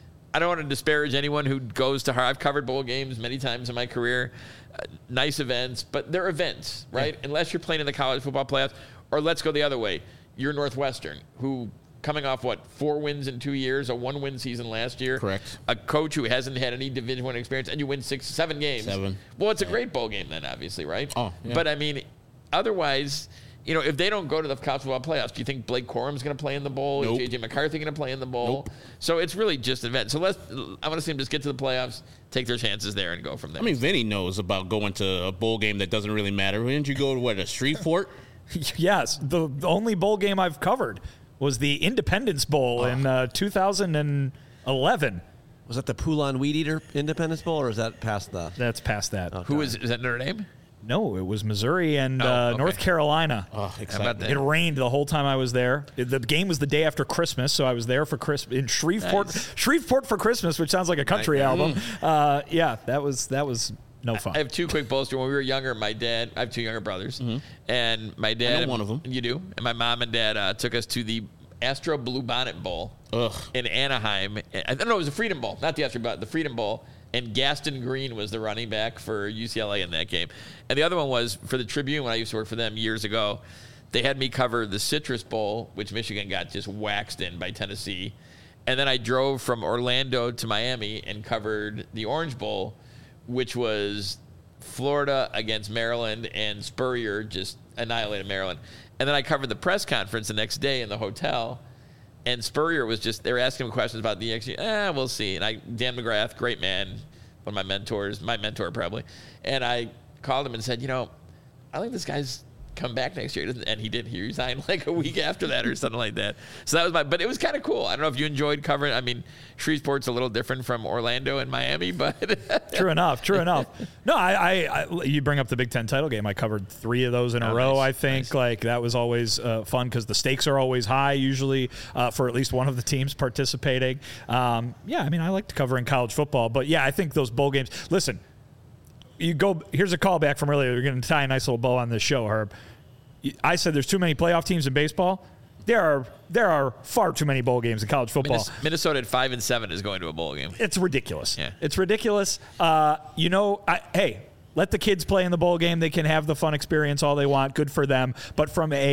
I don't want to disparage anyone who goes to Har. I've covered bowl games many times in my career, uh, nice events, but they're events, right? Yeah. Unless you're playing in the college football playoffs, or let's go the other way. You're Northwestern, who coming off what four wins in two years, a one-win season last year. Correct. A coach who hasn't had any Division One experience, and you win six, seven games. Seven. Well, it's a great bowl game then, obviously, right? Oh, yeah. But I mean, otherwise, you know, if they don't go to the college football playoffs, do you think Blake Corum's going to play in the bowl? Nope. Is J J McCarthy going to play in the bowl? Nope. So it's really just an event. So let's. I want to see them just get to the playoffs, take their chances there, and go from there. I mean, Vinny knows about going to a bowl game that doesn't really matter. Didn't you go to what a Shreveport? Yes, the, the only bowl game I've covered was the Independence Bowl in uh, two thousand eleven. Was that the Poulon Weed Eater Independence Bowl, or is that past the? That's past that. Who is is that Notre Dame? No, it was Missouri and Oh, uh, okay. North Carolina. Oh, How exciting. about that? It rained the whole time I was there. It- The game was the day after Christmas, so I was there for Christmas in Shreveport. Nice. Shreveport for Christmas, which sounds like a country album. Uh, yeah, that was that was no fun. I have two quick bullets. When we were younger, my dad, I have two younger brothers, and my dad, Mm-hmm. I know one of them. You do, and my mom and dad uh, took us to the Astro Bluebonnet Bowl Ugh. in Anaheim. I don't know, it was the Freedom Bowl, not the Astro, but the Freedom Bowl. And Gaston Green was the running back for U C L A in that game. And the other one was for the Tribune when I used to work for them years ago. They had me cover the Citrus Bowl, which Michigan got just waxed in by Tennessee. And then I drove from Orlando to Miami and covered the Orange Bowl, which was Florida against Maryland, and Spurrier just annihilated Maryland. And then I covered the press conference the next day in the hotel. And Spurrier was just, they were asking him questions about the next year. Eh, we'll see. And I, Dan McGrath, great man, one of my mentors, my mentor probably. And I called him and said, you know, I think this guy's come back next year. And he did. He resigned like a week after that or something like that. So that was my, but it was kind of cool. I don't know if you enjoyed covering, I mean, Shreveport's a little different from Orlando and Miami, but. True enough. True enough. No, I, I, I. You bring up the Big Ten title game. I covered three of those in a Oh, row. nice, I think nice. like that was always uh, fun because the stakes are always high usually uh, for at least one of the teams participating. Um, yeah, I mean, I like to cover in college football, but yeah, I think those bowl games. Listen, you go. Here's a callback from earlier. You're going to tie a nice little bow on this show, Herb. I said there's too many playoff teams in baseball. There are there are far too many bowl games in college football. Minnes- Minnesota at five and seven is going to a bowl game. It's ridiculous. Yeah. It's ridiculous. Uh, you know, I, hey, let the kids play in the bowl game. They can have the fun experience all they want. Good for them. But from a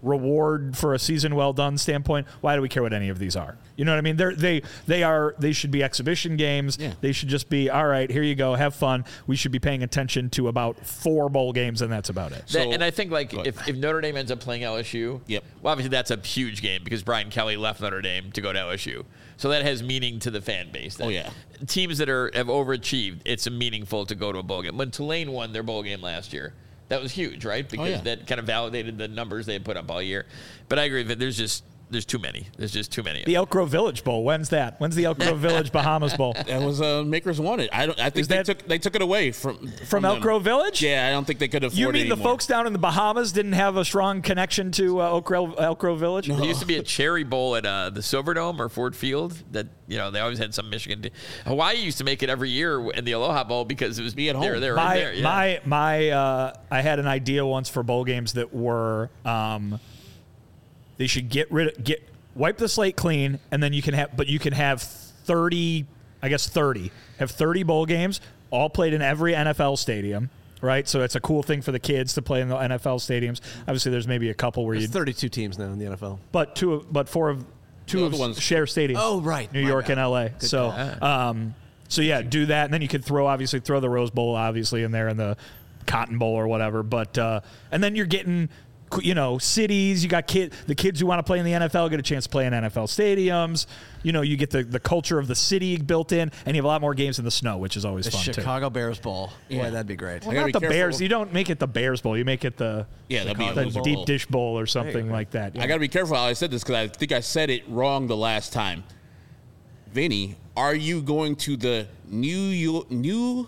reward for a season well done standpoint, why do we care what any of these are? You know what I mean? They're, they they are they should be exhibition games. Yeah. They should just be, all right, here you go, have fun. We should be paying attention to about four bowl games, and that's about it. That, So- and I think like Go ahead. if, if Notre Dame ends up playing L S U, Yep. well, obviously that's a huge game because Brian Kelly left Notre Dame to go to L S U, so that has meaning to the fan base. That Oh, yeah. teams that are have overachieved, it's meaningful to go to a bowl game. When Tulane won their bowl game last year, that was huge, right? Because yeah. that kind of validated the numbers they had put up all year. But I agree that there's just there's too many. There's just too many. The Elk Grove Village Bowl, when's that? When's the Elk Grove Village Bahamas Bowl? That was uh, Makers wanted. I don't. I think Is they that- took they took it away from From Elk them. Grove Village? Yeah, I don't think they could afford You it mean the anymore. folks down in the Bahamas didn't have a strong connection to uh, Elk, Grove, Elk Grove Village? There used to be a Cherry Bowl at uh, the Silverdome or Ford Field that, you know, they always had some Michigan. T- Hawaii used to make it every year in the Aloha Bowl because it was Be at They were, home. they were my in there. Yeah. my my uh, I had an idea once for bowl games that were um, they should get rid of get wipe the slate clean, and then you can have but you can have thirty, I guess thirty, have thirty bowl games all played in every N F L stadium. Right, so it's a cool thing for the kids to play in the N F L stadiums. Obviously, there's maybe a couple where you, There's thirty-two teams now in the N F L. but two, of, but four of two The of other ones- share stadiums. Oh, right. New My York bad. and L A. Good So, um, so yeah, do that, and then you could throw obviously throw the Rose Bowl obviously in there and the Cotton Bowl or whatever. But uh, and then you're getting, you know, cities. You got kid the kids who want to play in the N F L get a chance to play in N F L stadiums. You know, you get the, the culture of the city built in, and you have a lot more games in the snow, which is always The fun Chicago Bears Bowl. Yeah. Boy, that'd be great. I too. gotta Not be the careful. Bears. You don't make it the Bears Bowl. You make it the Yeah, that'd be a the loser deep bowl. dish bowl or something go. like that. I got to be careful how I said this because I think I said it wrong the last time. Vinny, are you going to the New Yo- New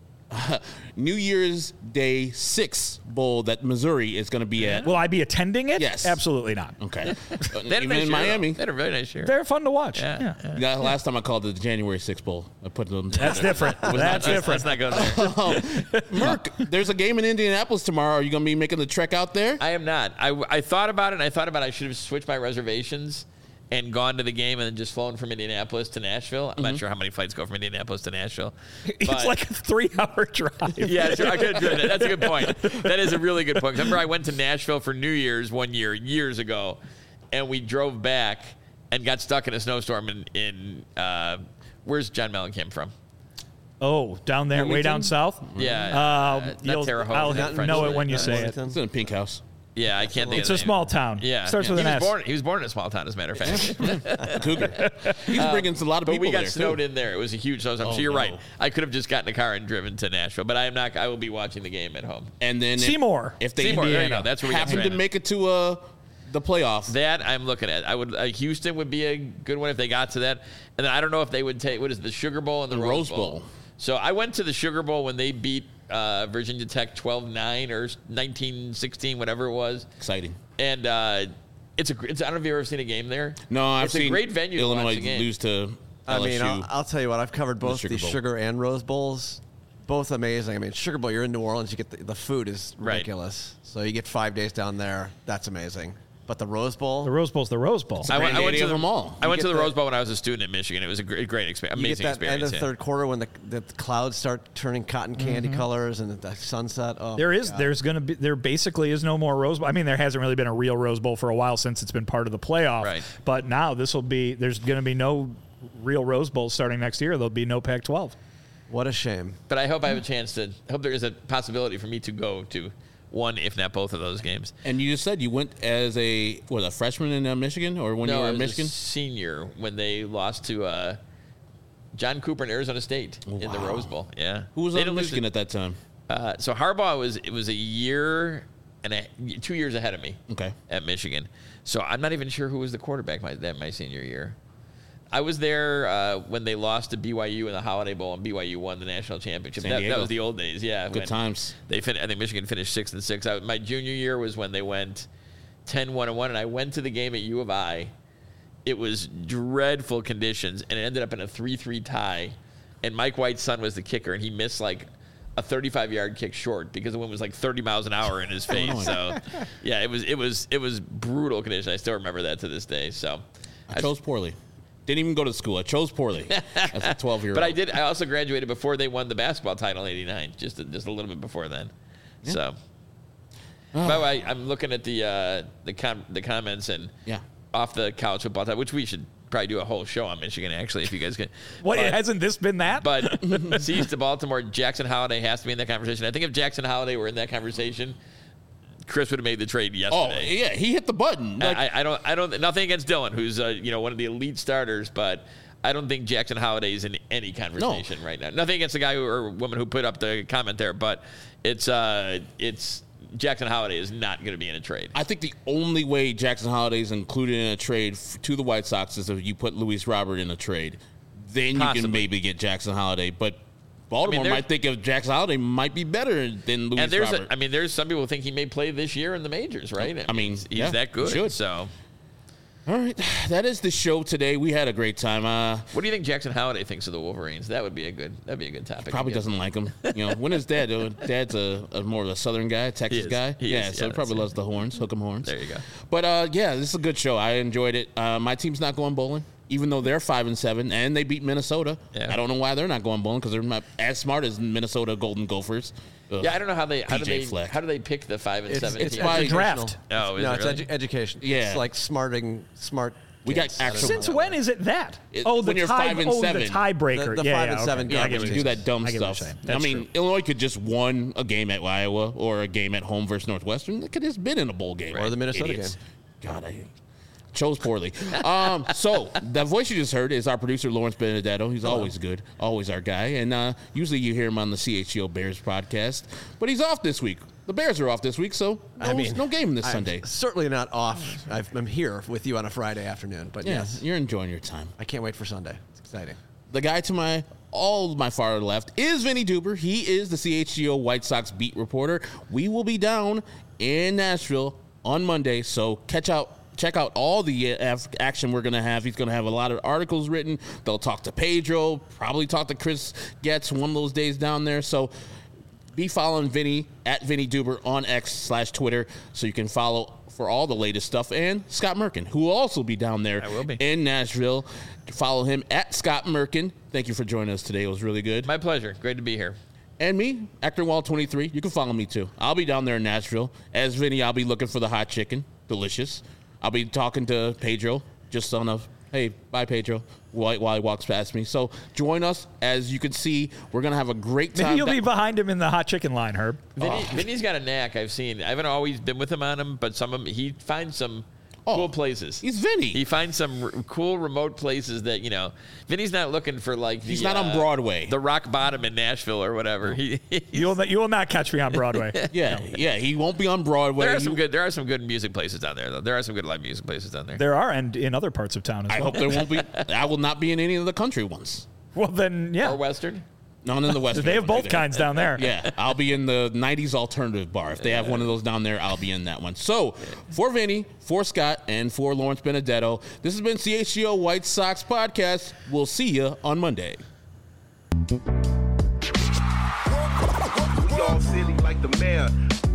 New Year's Day Six Bowl that Missouri is going to be at? Will I be attending it? Yes. Absolutely not. Okay, They had a even nice in year, though. Miami. They had a very nice year. They're fun to watch. Yeah. yeah. Yeah, last time I called it the January sixth Bowl. I put them. That's different. That's Let's- different. Let's not go there. Merc, there's a game in Indianapolis tomorrow. Are you going to be making the trek out there? I am not. I, I thought about it, and I thought about I should have switched my reservations and gone to the game and then just flown from Indianapolis to Nashville. I'm not sure how many flights go from Indianapolis to Nashville. It's but- like a three-hour drive. Yeah, sure, I could have driven it. That's a good point. That is a really good point. Remember, I went to Nashville for New Year's one year, years ago, and we drove back and got stuck in a snowstorm in, in uh, where's John Mellencamp from? Oh, down there, way Wilmington? down south. Yeah, Uh, uh, not you'll- Terre Haute. I'll not French know it Lick. when you Uh, say it. Wellington? It's in a pink house. Yeah, I can't think It's of a the name. small town. Yeah, Starts with he an was S. born. He was born in a small town, as a matter of fact. Cougar. He's bringing a lot of But people we got there snowed too. in there. It was a huge snowstorm. Oh, so you're no. right. I could have just gotten a car and driven to Nashville, but I am not. I will be watching the game at home. And then if- Seymour. if they Seymour, there you Indiana. go. That's where we got happen to stranded. make it to uh, the playoff. That I'm looking at. I would. Uh, Houston would be a good one if they got to that. And then I don't know if they would take what is it, the Sugar Bowl and the, The Rose Rose Bowl. Bowl. So I went to the Sugar Bowl when they beat uh, Virginia Tech twelve nine or nineteen sixteen, whatever it was. Exciting. And uh, it's a. It's, I don't know if you've ever seen a game there. No, I've it's seen a great venue to Illinois watch the game. lose to I L S U. mean, I'll, I'll tell you what. I've covered both Sugar the Bowl. Sugar and Rose Bowls. Both amazing. I mean, Sugar Bowl, you're in New Orleans. You get the, the food is Right. ridiculous. So you get five days down there. That's amazing. But the Rose Bowl, The Rose Bowl's the Rose Bowl. I went, I went Granddaddy to of the, them all. I You went to get the that- Rose Bowl when I was a student in Michigan. It was a great, great experience. you Amazing get that end experience. of the yeah. third quarter when the, the clouds start turning cotton candy colors and the sunset. Oh, There my is, God. there's going to be, there basically is no more Rose Bowl. I mean, there hasn't really been a real Rose Bowl for a while since it's been part of the playoff. Right. But now this will be, there's going to be no real Rose Bowl starting next year. There'll be no Pac twelve. What a shame. But I hope I have a chance to. I hope there is a possibility for me to go to one, if not both, of those games. And you just said you went as a what a freshman in uh, Michigan, or when no, you were I in was Michigan. a senior when they lost to uh, John Cooper and Arizona State in the Wow. Rose Bowl. Yeah, Who was They on didn't lose Michigan it. at that time? Uh, so Harbaugh was it was a year and a, two years ahead of me. Okay. At Michigan, so I'm not even sure who was the quarterback my that my senior year. I was there uh, when they lost to B Y U in the Holiday Bowl, and B Y U won the national championship. San That, Diego. that was the old days, yeah. Good when times. They fin- I think Michigan finished six and six. I, my junior year was when they went ten one and one, and I went to the game at U of I. It was dreadful conditions, and it ended up in a three three tie. And Mike White's son was the kicker, and he missed like a thirty-five yard kick short because the wind was like thirty miles an hour in his face. So, yeah, it was it was it was brutal conditions. I still remember that to this day. So, I chose poorly. Didn't even go to school. I chose poorly as a twelve-year-old. but I did. I also graduated before they won the basketball title in eighty-nine, just a, just a little bit before then. So, By the way, I'm looking at the uh, the com- the comments and Yeah. off the college football time, which we should probably do a whole show on Michigan, actually, if you guys can. What, But- hasn't this been that? But Seas to Baltimore, Jackson Holiday has to be in that conversation. I think if Jackson Holiday were in that conversation, Chris would have made the trade Oh, yesterday. yeah, he hit the button. Like, I, I don't, I don't, nothing against Dylan, who's uh, you know one of the elite starters, but I don't think Jackson Holiday is in any conversation right now. Nothing against the guy who, or woman who put up the comment there, but it's, uh, it's Jackson Holiday is not going to be in a trade. I think the only way Jackson Holiday is included in a trade f- to the White Sox is if you put Luis Robert in a trade. Then you Possibly. can maybe get Jackson Holiday. But Baltimore there's- might think of Jackson Holiday might be better than Luis And there's, Robert. a, I mean, there's some people think he may play this year in the majors, right? I mean, he's, he's yeah, that good. he should. So, All right, that is the show today. We had a great time. Uh, what do you think Jackson Holiday thinks of the Wolverines? That would be a good, that'd be a good topic. probably to get. doesn't like him. You know, when is Dad doing? Dad's a, a more of a Southern guy, Texas He is. guy. He yeah, is. so Yeah, he probably that's loves the horns, hook 'em horns. There you go. But uh, yeah, this is a good show. I enjoyed it. Uh, my team's not going bowling, even though they're five and seven, and they beat Minnesota. Yeah. I don't know why they're not going bowling because they're not as smart as Minnesota Golden Gophers. Ugh. Yeah, I don't know how they how do P J they Fleck. how do they pick the five and It's, seven it's teams? by- draft. Oh, is no, it it's really? edu- education. Yeah. It's like smarting, smart. We got kids. I don't actual- know. Since when is it that? It- oh, the when you're tie, five and oh, seven. the tiebreaker. The- the yeah, five yeah, and okay. seven Yeah, I but get you what do you're that saying. dumb I get what stuff. you're saying. I That's mean, true. Illinois could just won a game at Iowa or a game at home versus Northwestern. They could have just been in a bowl game. Or the Minnesota Idiots. God, I chose poorly. um, so that voice you just heard is our producer Lawrence Benedetto. He's always good, always our guy, and uh, usually you hear him on the C H G O Bears podcast. But he's off this week. The Bears are off this week, so no, I mean, no game this I'm Sunday. certainly not off. I've, I'm here with you on a Friday afternoon, but Yeah, yes, you're enjoying your time. I can't wait for Sunday. It's exciting. The guy to my all my far left is Vinny Duber. He is the C H G O White Sox beat reporter. We will be down in Nashville on Monday, so catch out. Check out all the uh, action we're going to have. He's going to have a lot of articles written. They'll talk to Pedro, probably talk to Chris Getz one of those days down there. So be following Vinny at Vinny Duber on X slash Twitter so you can follow for all the latest stuff. And Scott Merkin, who will also be down there I will be. in Nashville. Follow him at Scott Merkin. Thank you for joining us today. It was really good. My pleasure. Great to be here. And me, Actor Wall twenty-three. You can follow me too. I'll be down there in Nashville. As Vinny, I'll be looking for the hot chicken. Delicious. I'll be talking to Pedro just on a, hey, bye, Pedro, while, while he walks past me. So join us. As you can see, we're going to have a great time. Maybe you'll That- be behind him in the hot chicken line, Herb. Vinny, Vinny's got a knack I've seen. I haven't always been with him on him, but some of them, he finds some Oh, cool places. He's Vinny. He finds some r- cool remote places that, you know, Vinny's not looking for like the, He's not on uh, Broadway. the rock bottom in Nashville or whatever. He, You will, you will not catch me on Broadway. yeah, yeah. He won't be on Broadway. there are He- some good there are some good music places down there though. There are some good live music places down there. There are, and in other parts of town as I well. hope there won't be. I will not be in any of the country ones. Well, then, yeah. Or Western. None in the West. They have both kinds down there. Yeah, I'll be in the nineties alternative bar. If they have one of those down there, I'll be in that one. So, for Vinny, for Scott, and for Lawrence Benedetto, this has been C H G O White Sox Podcast. We'll see you on Monday. We all silly like the mayor.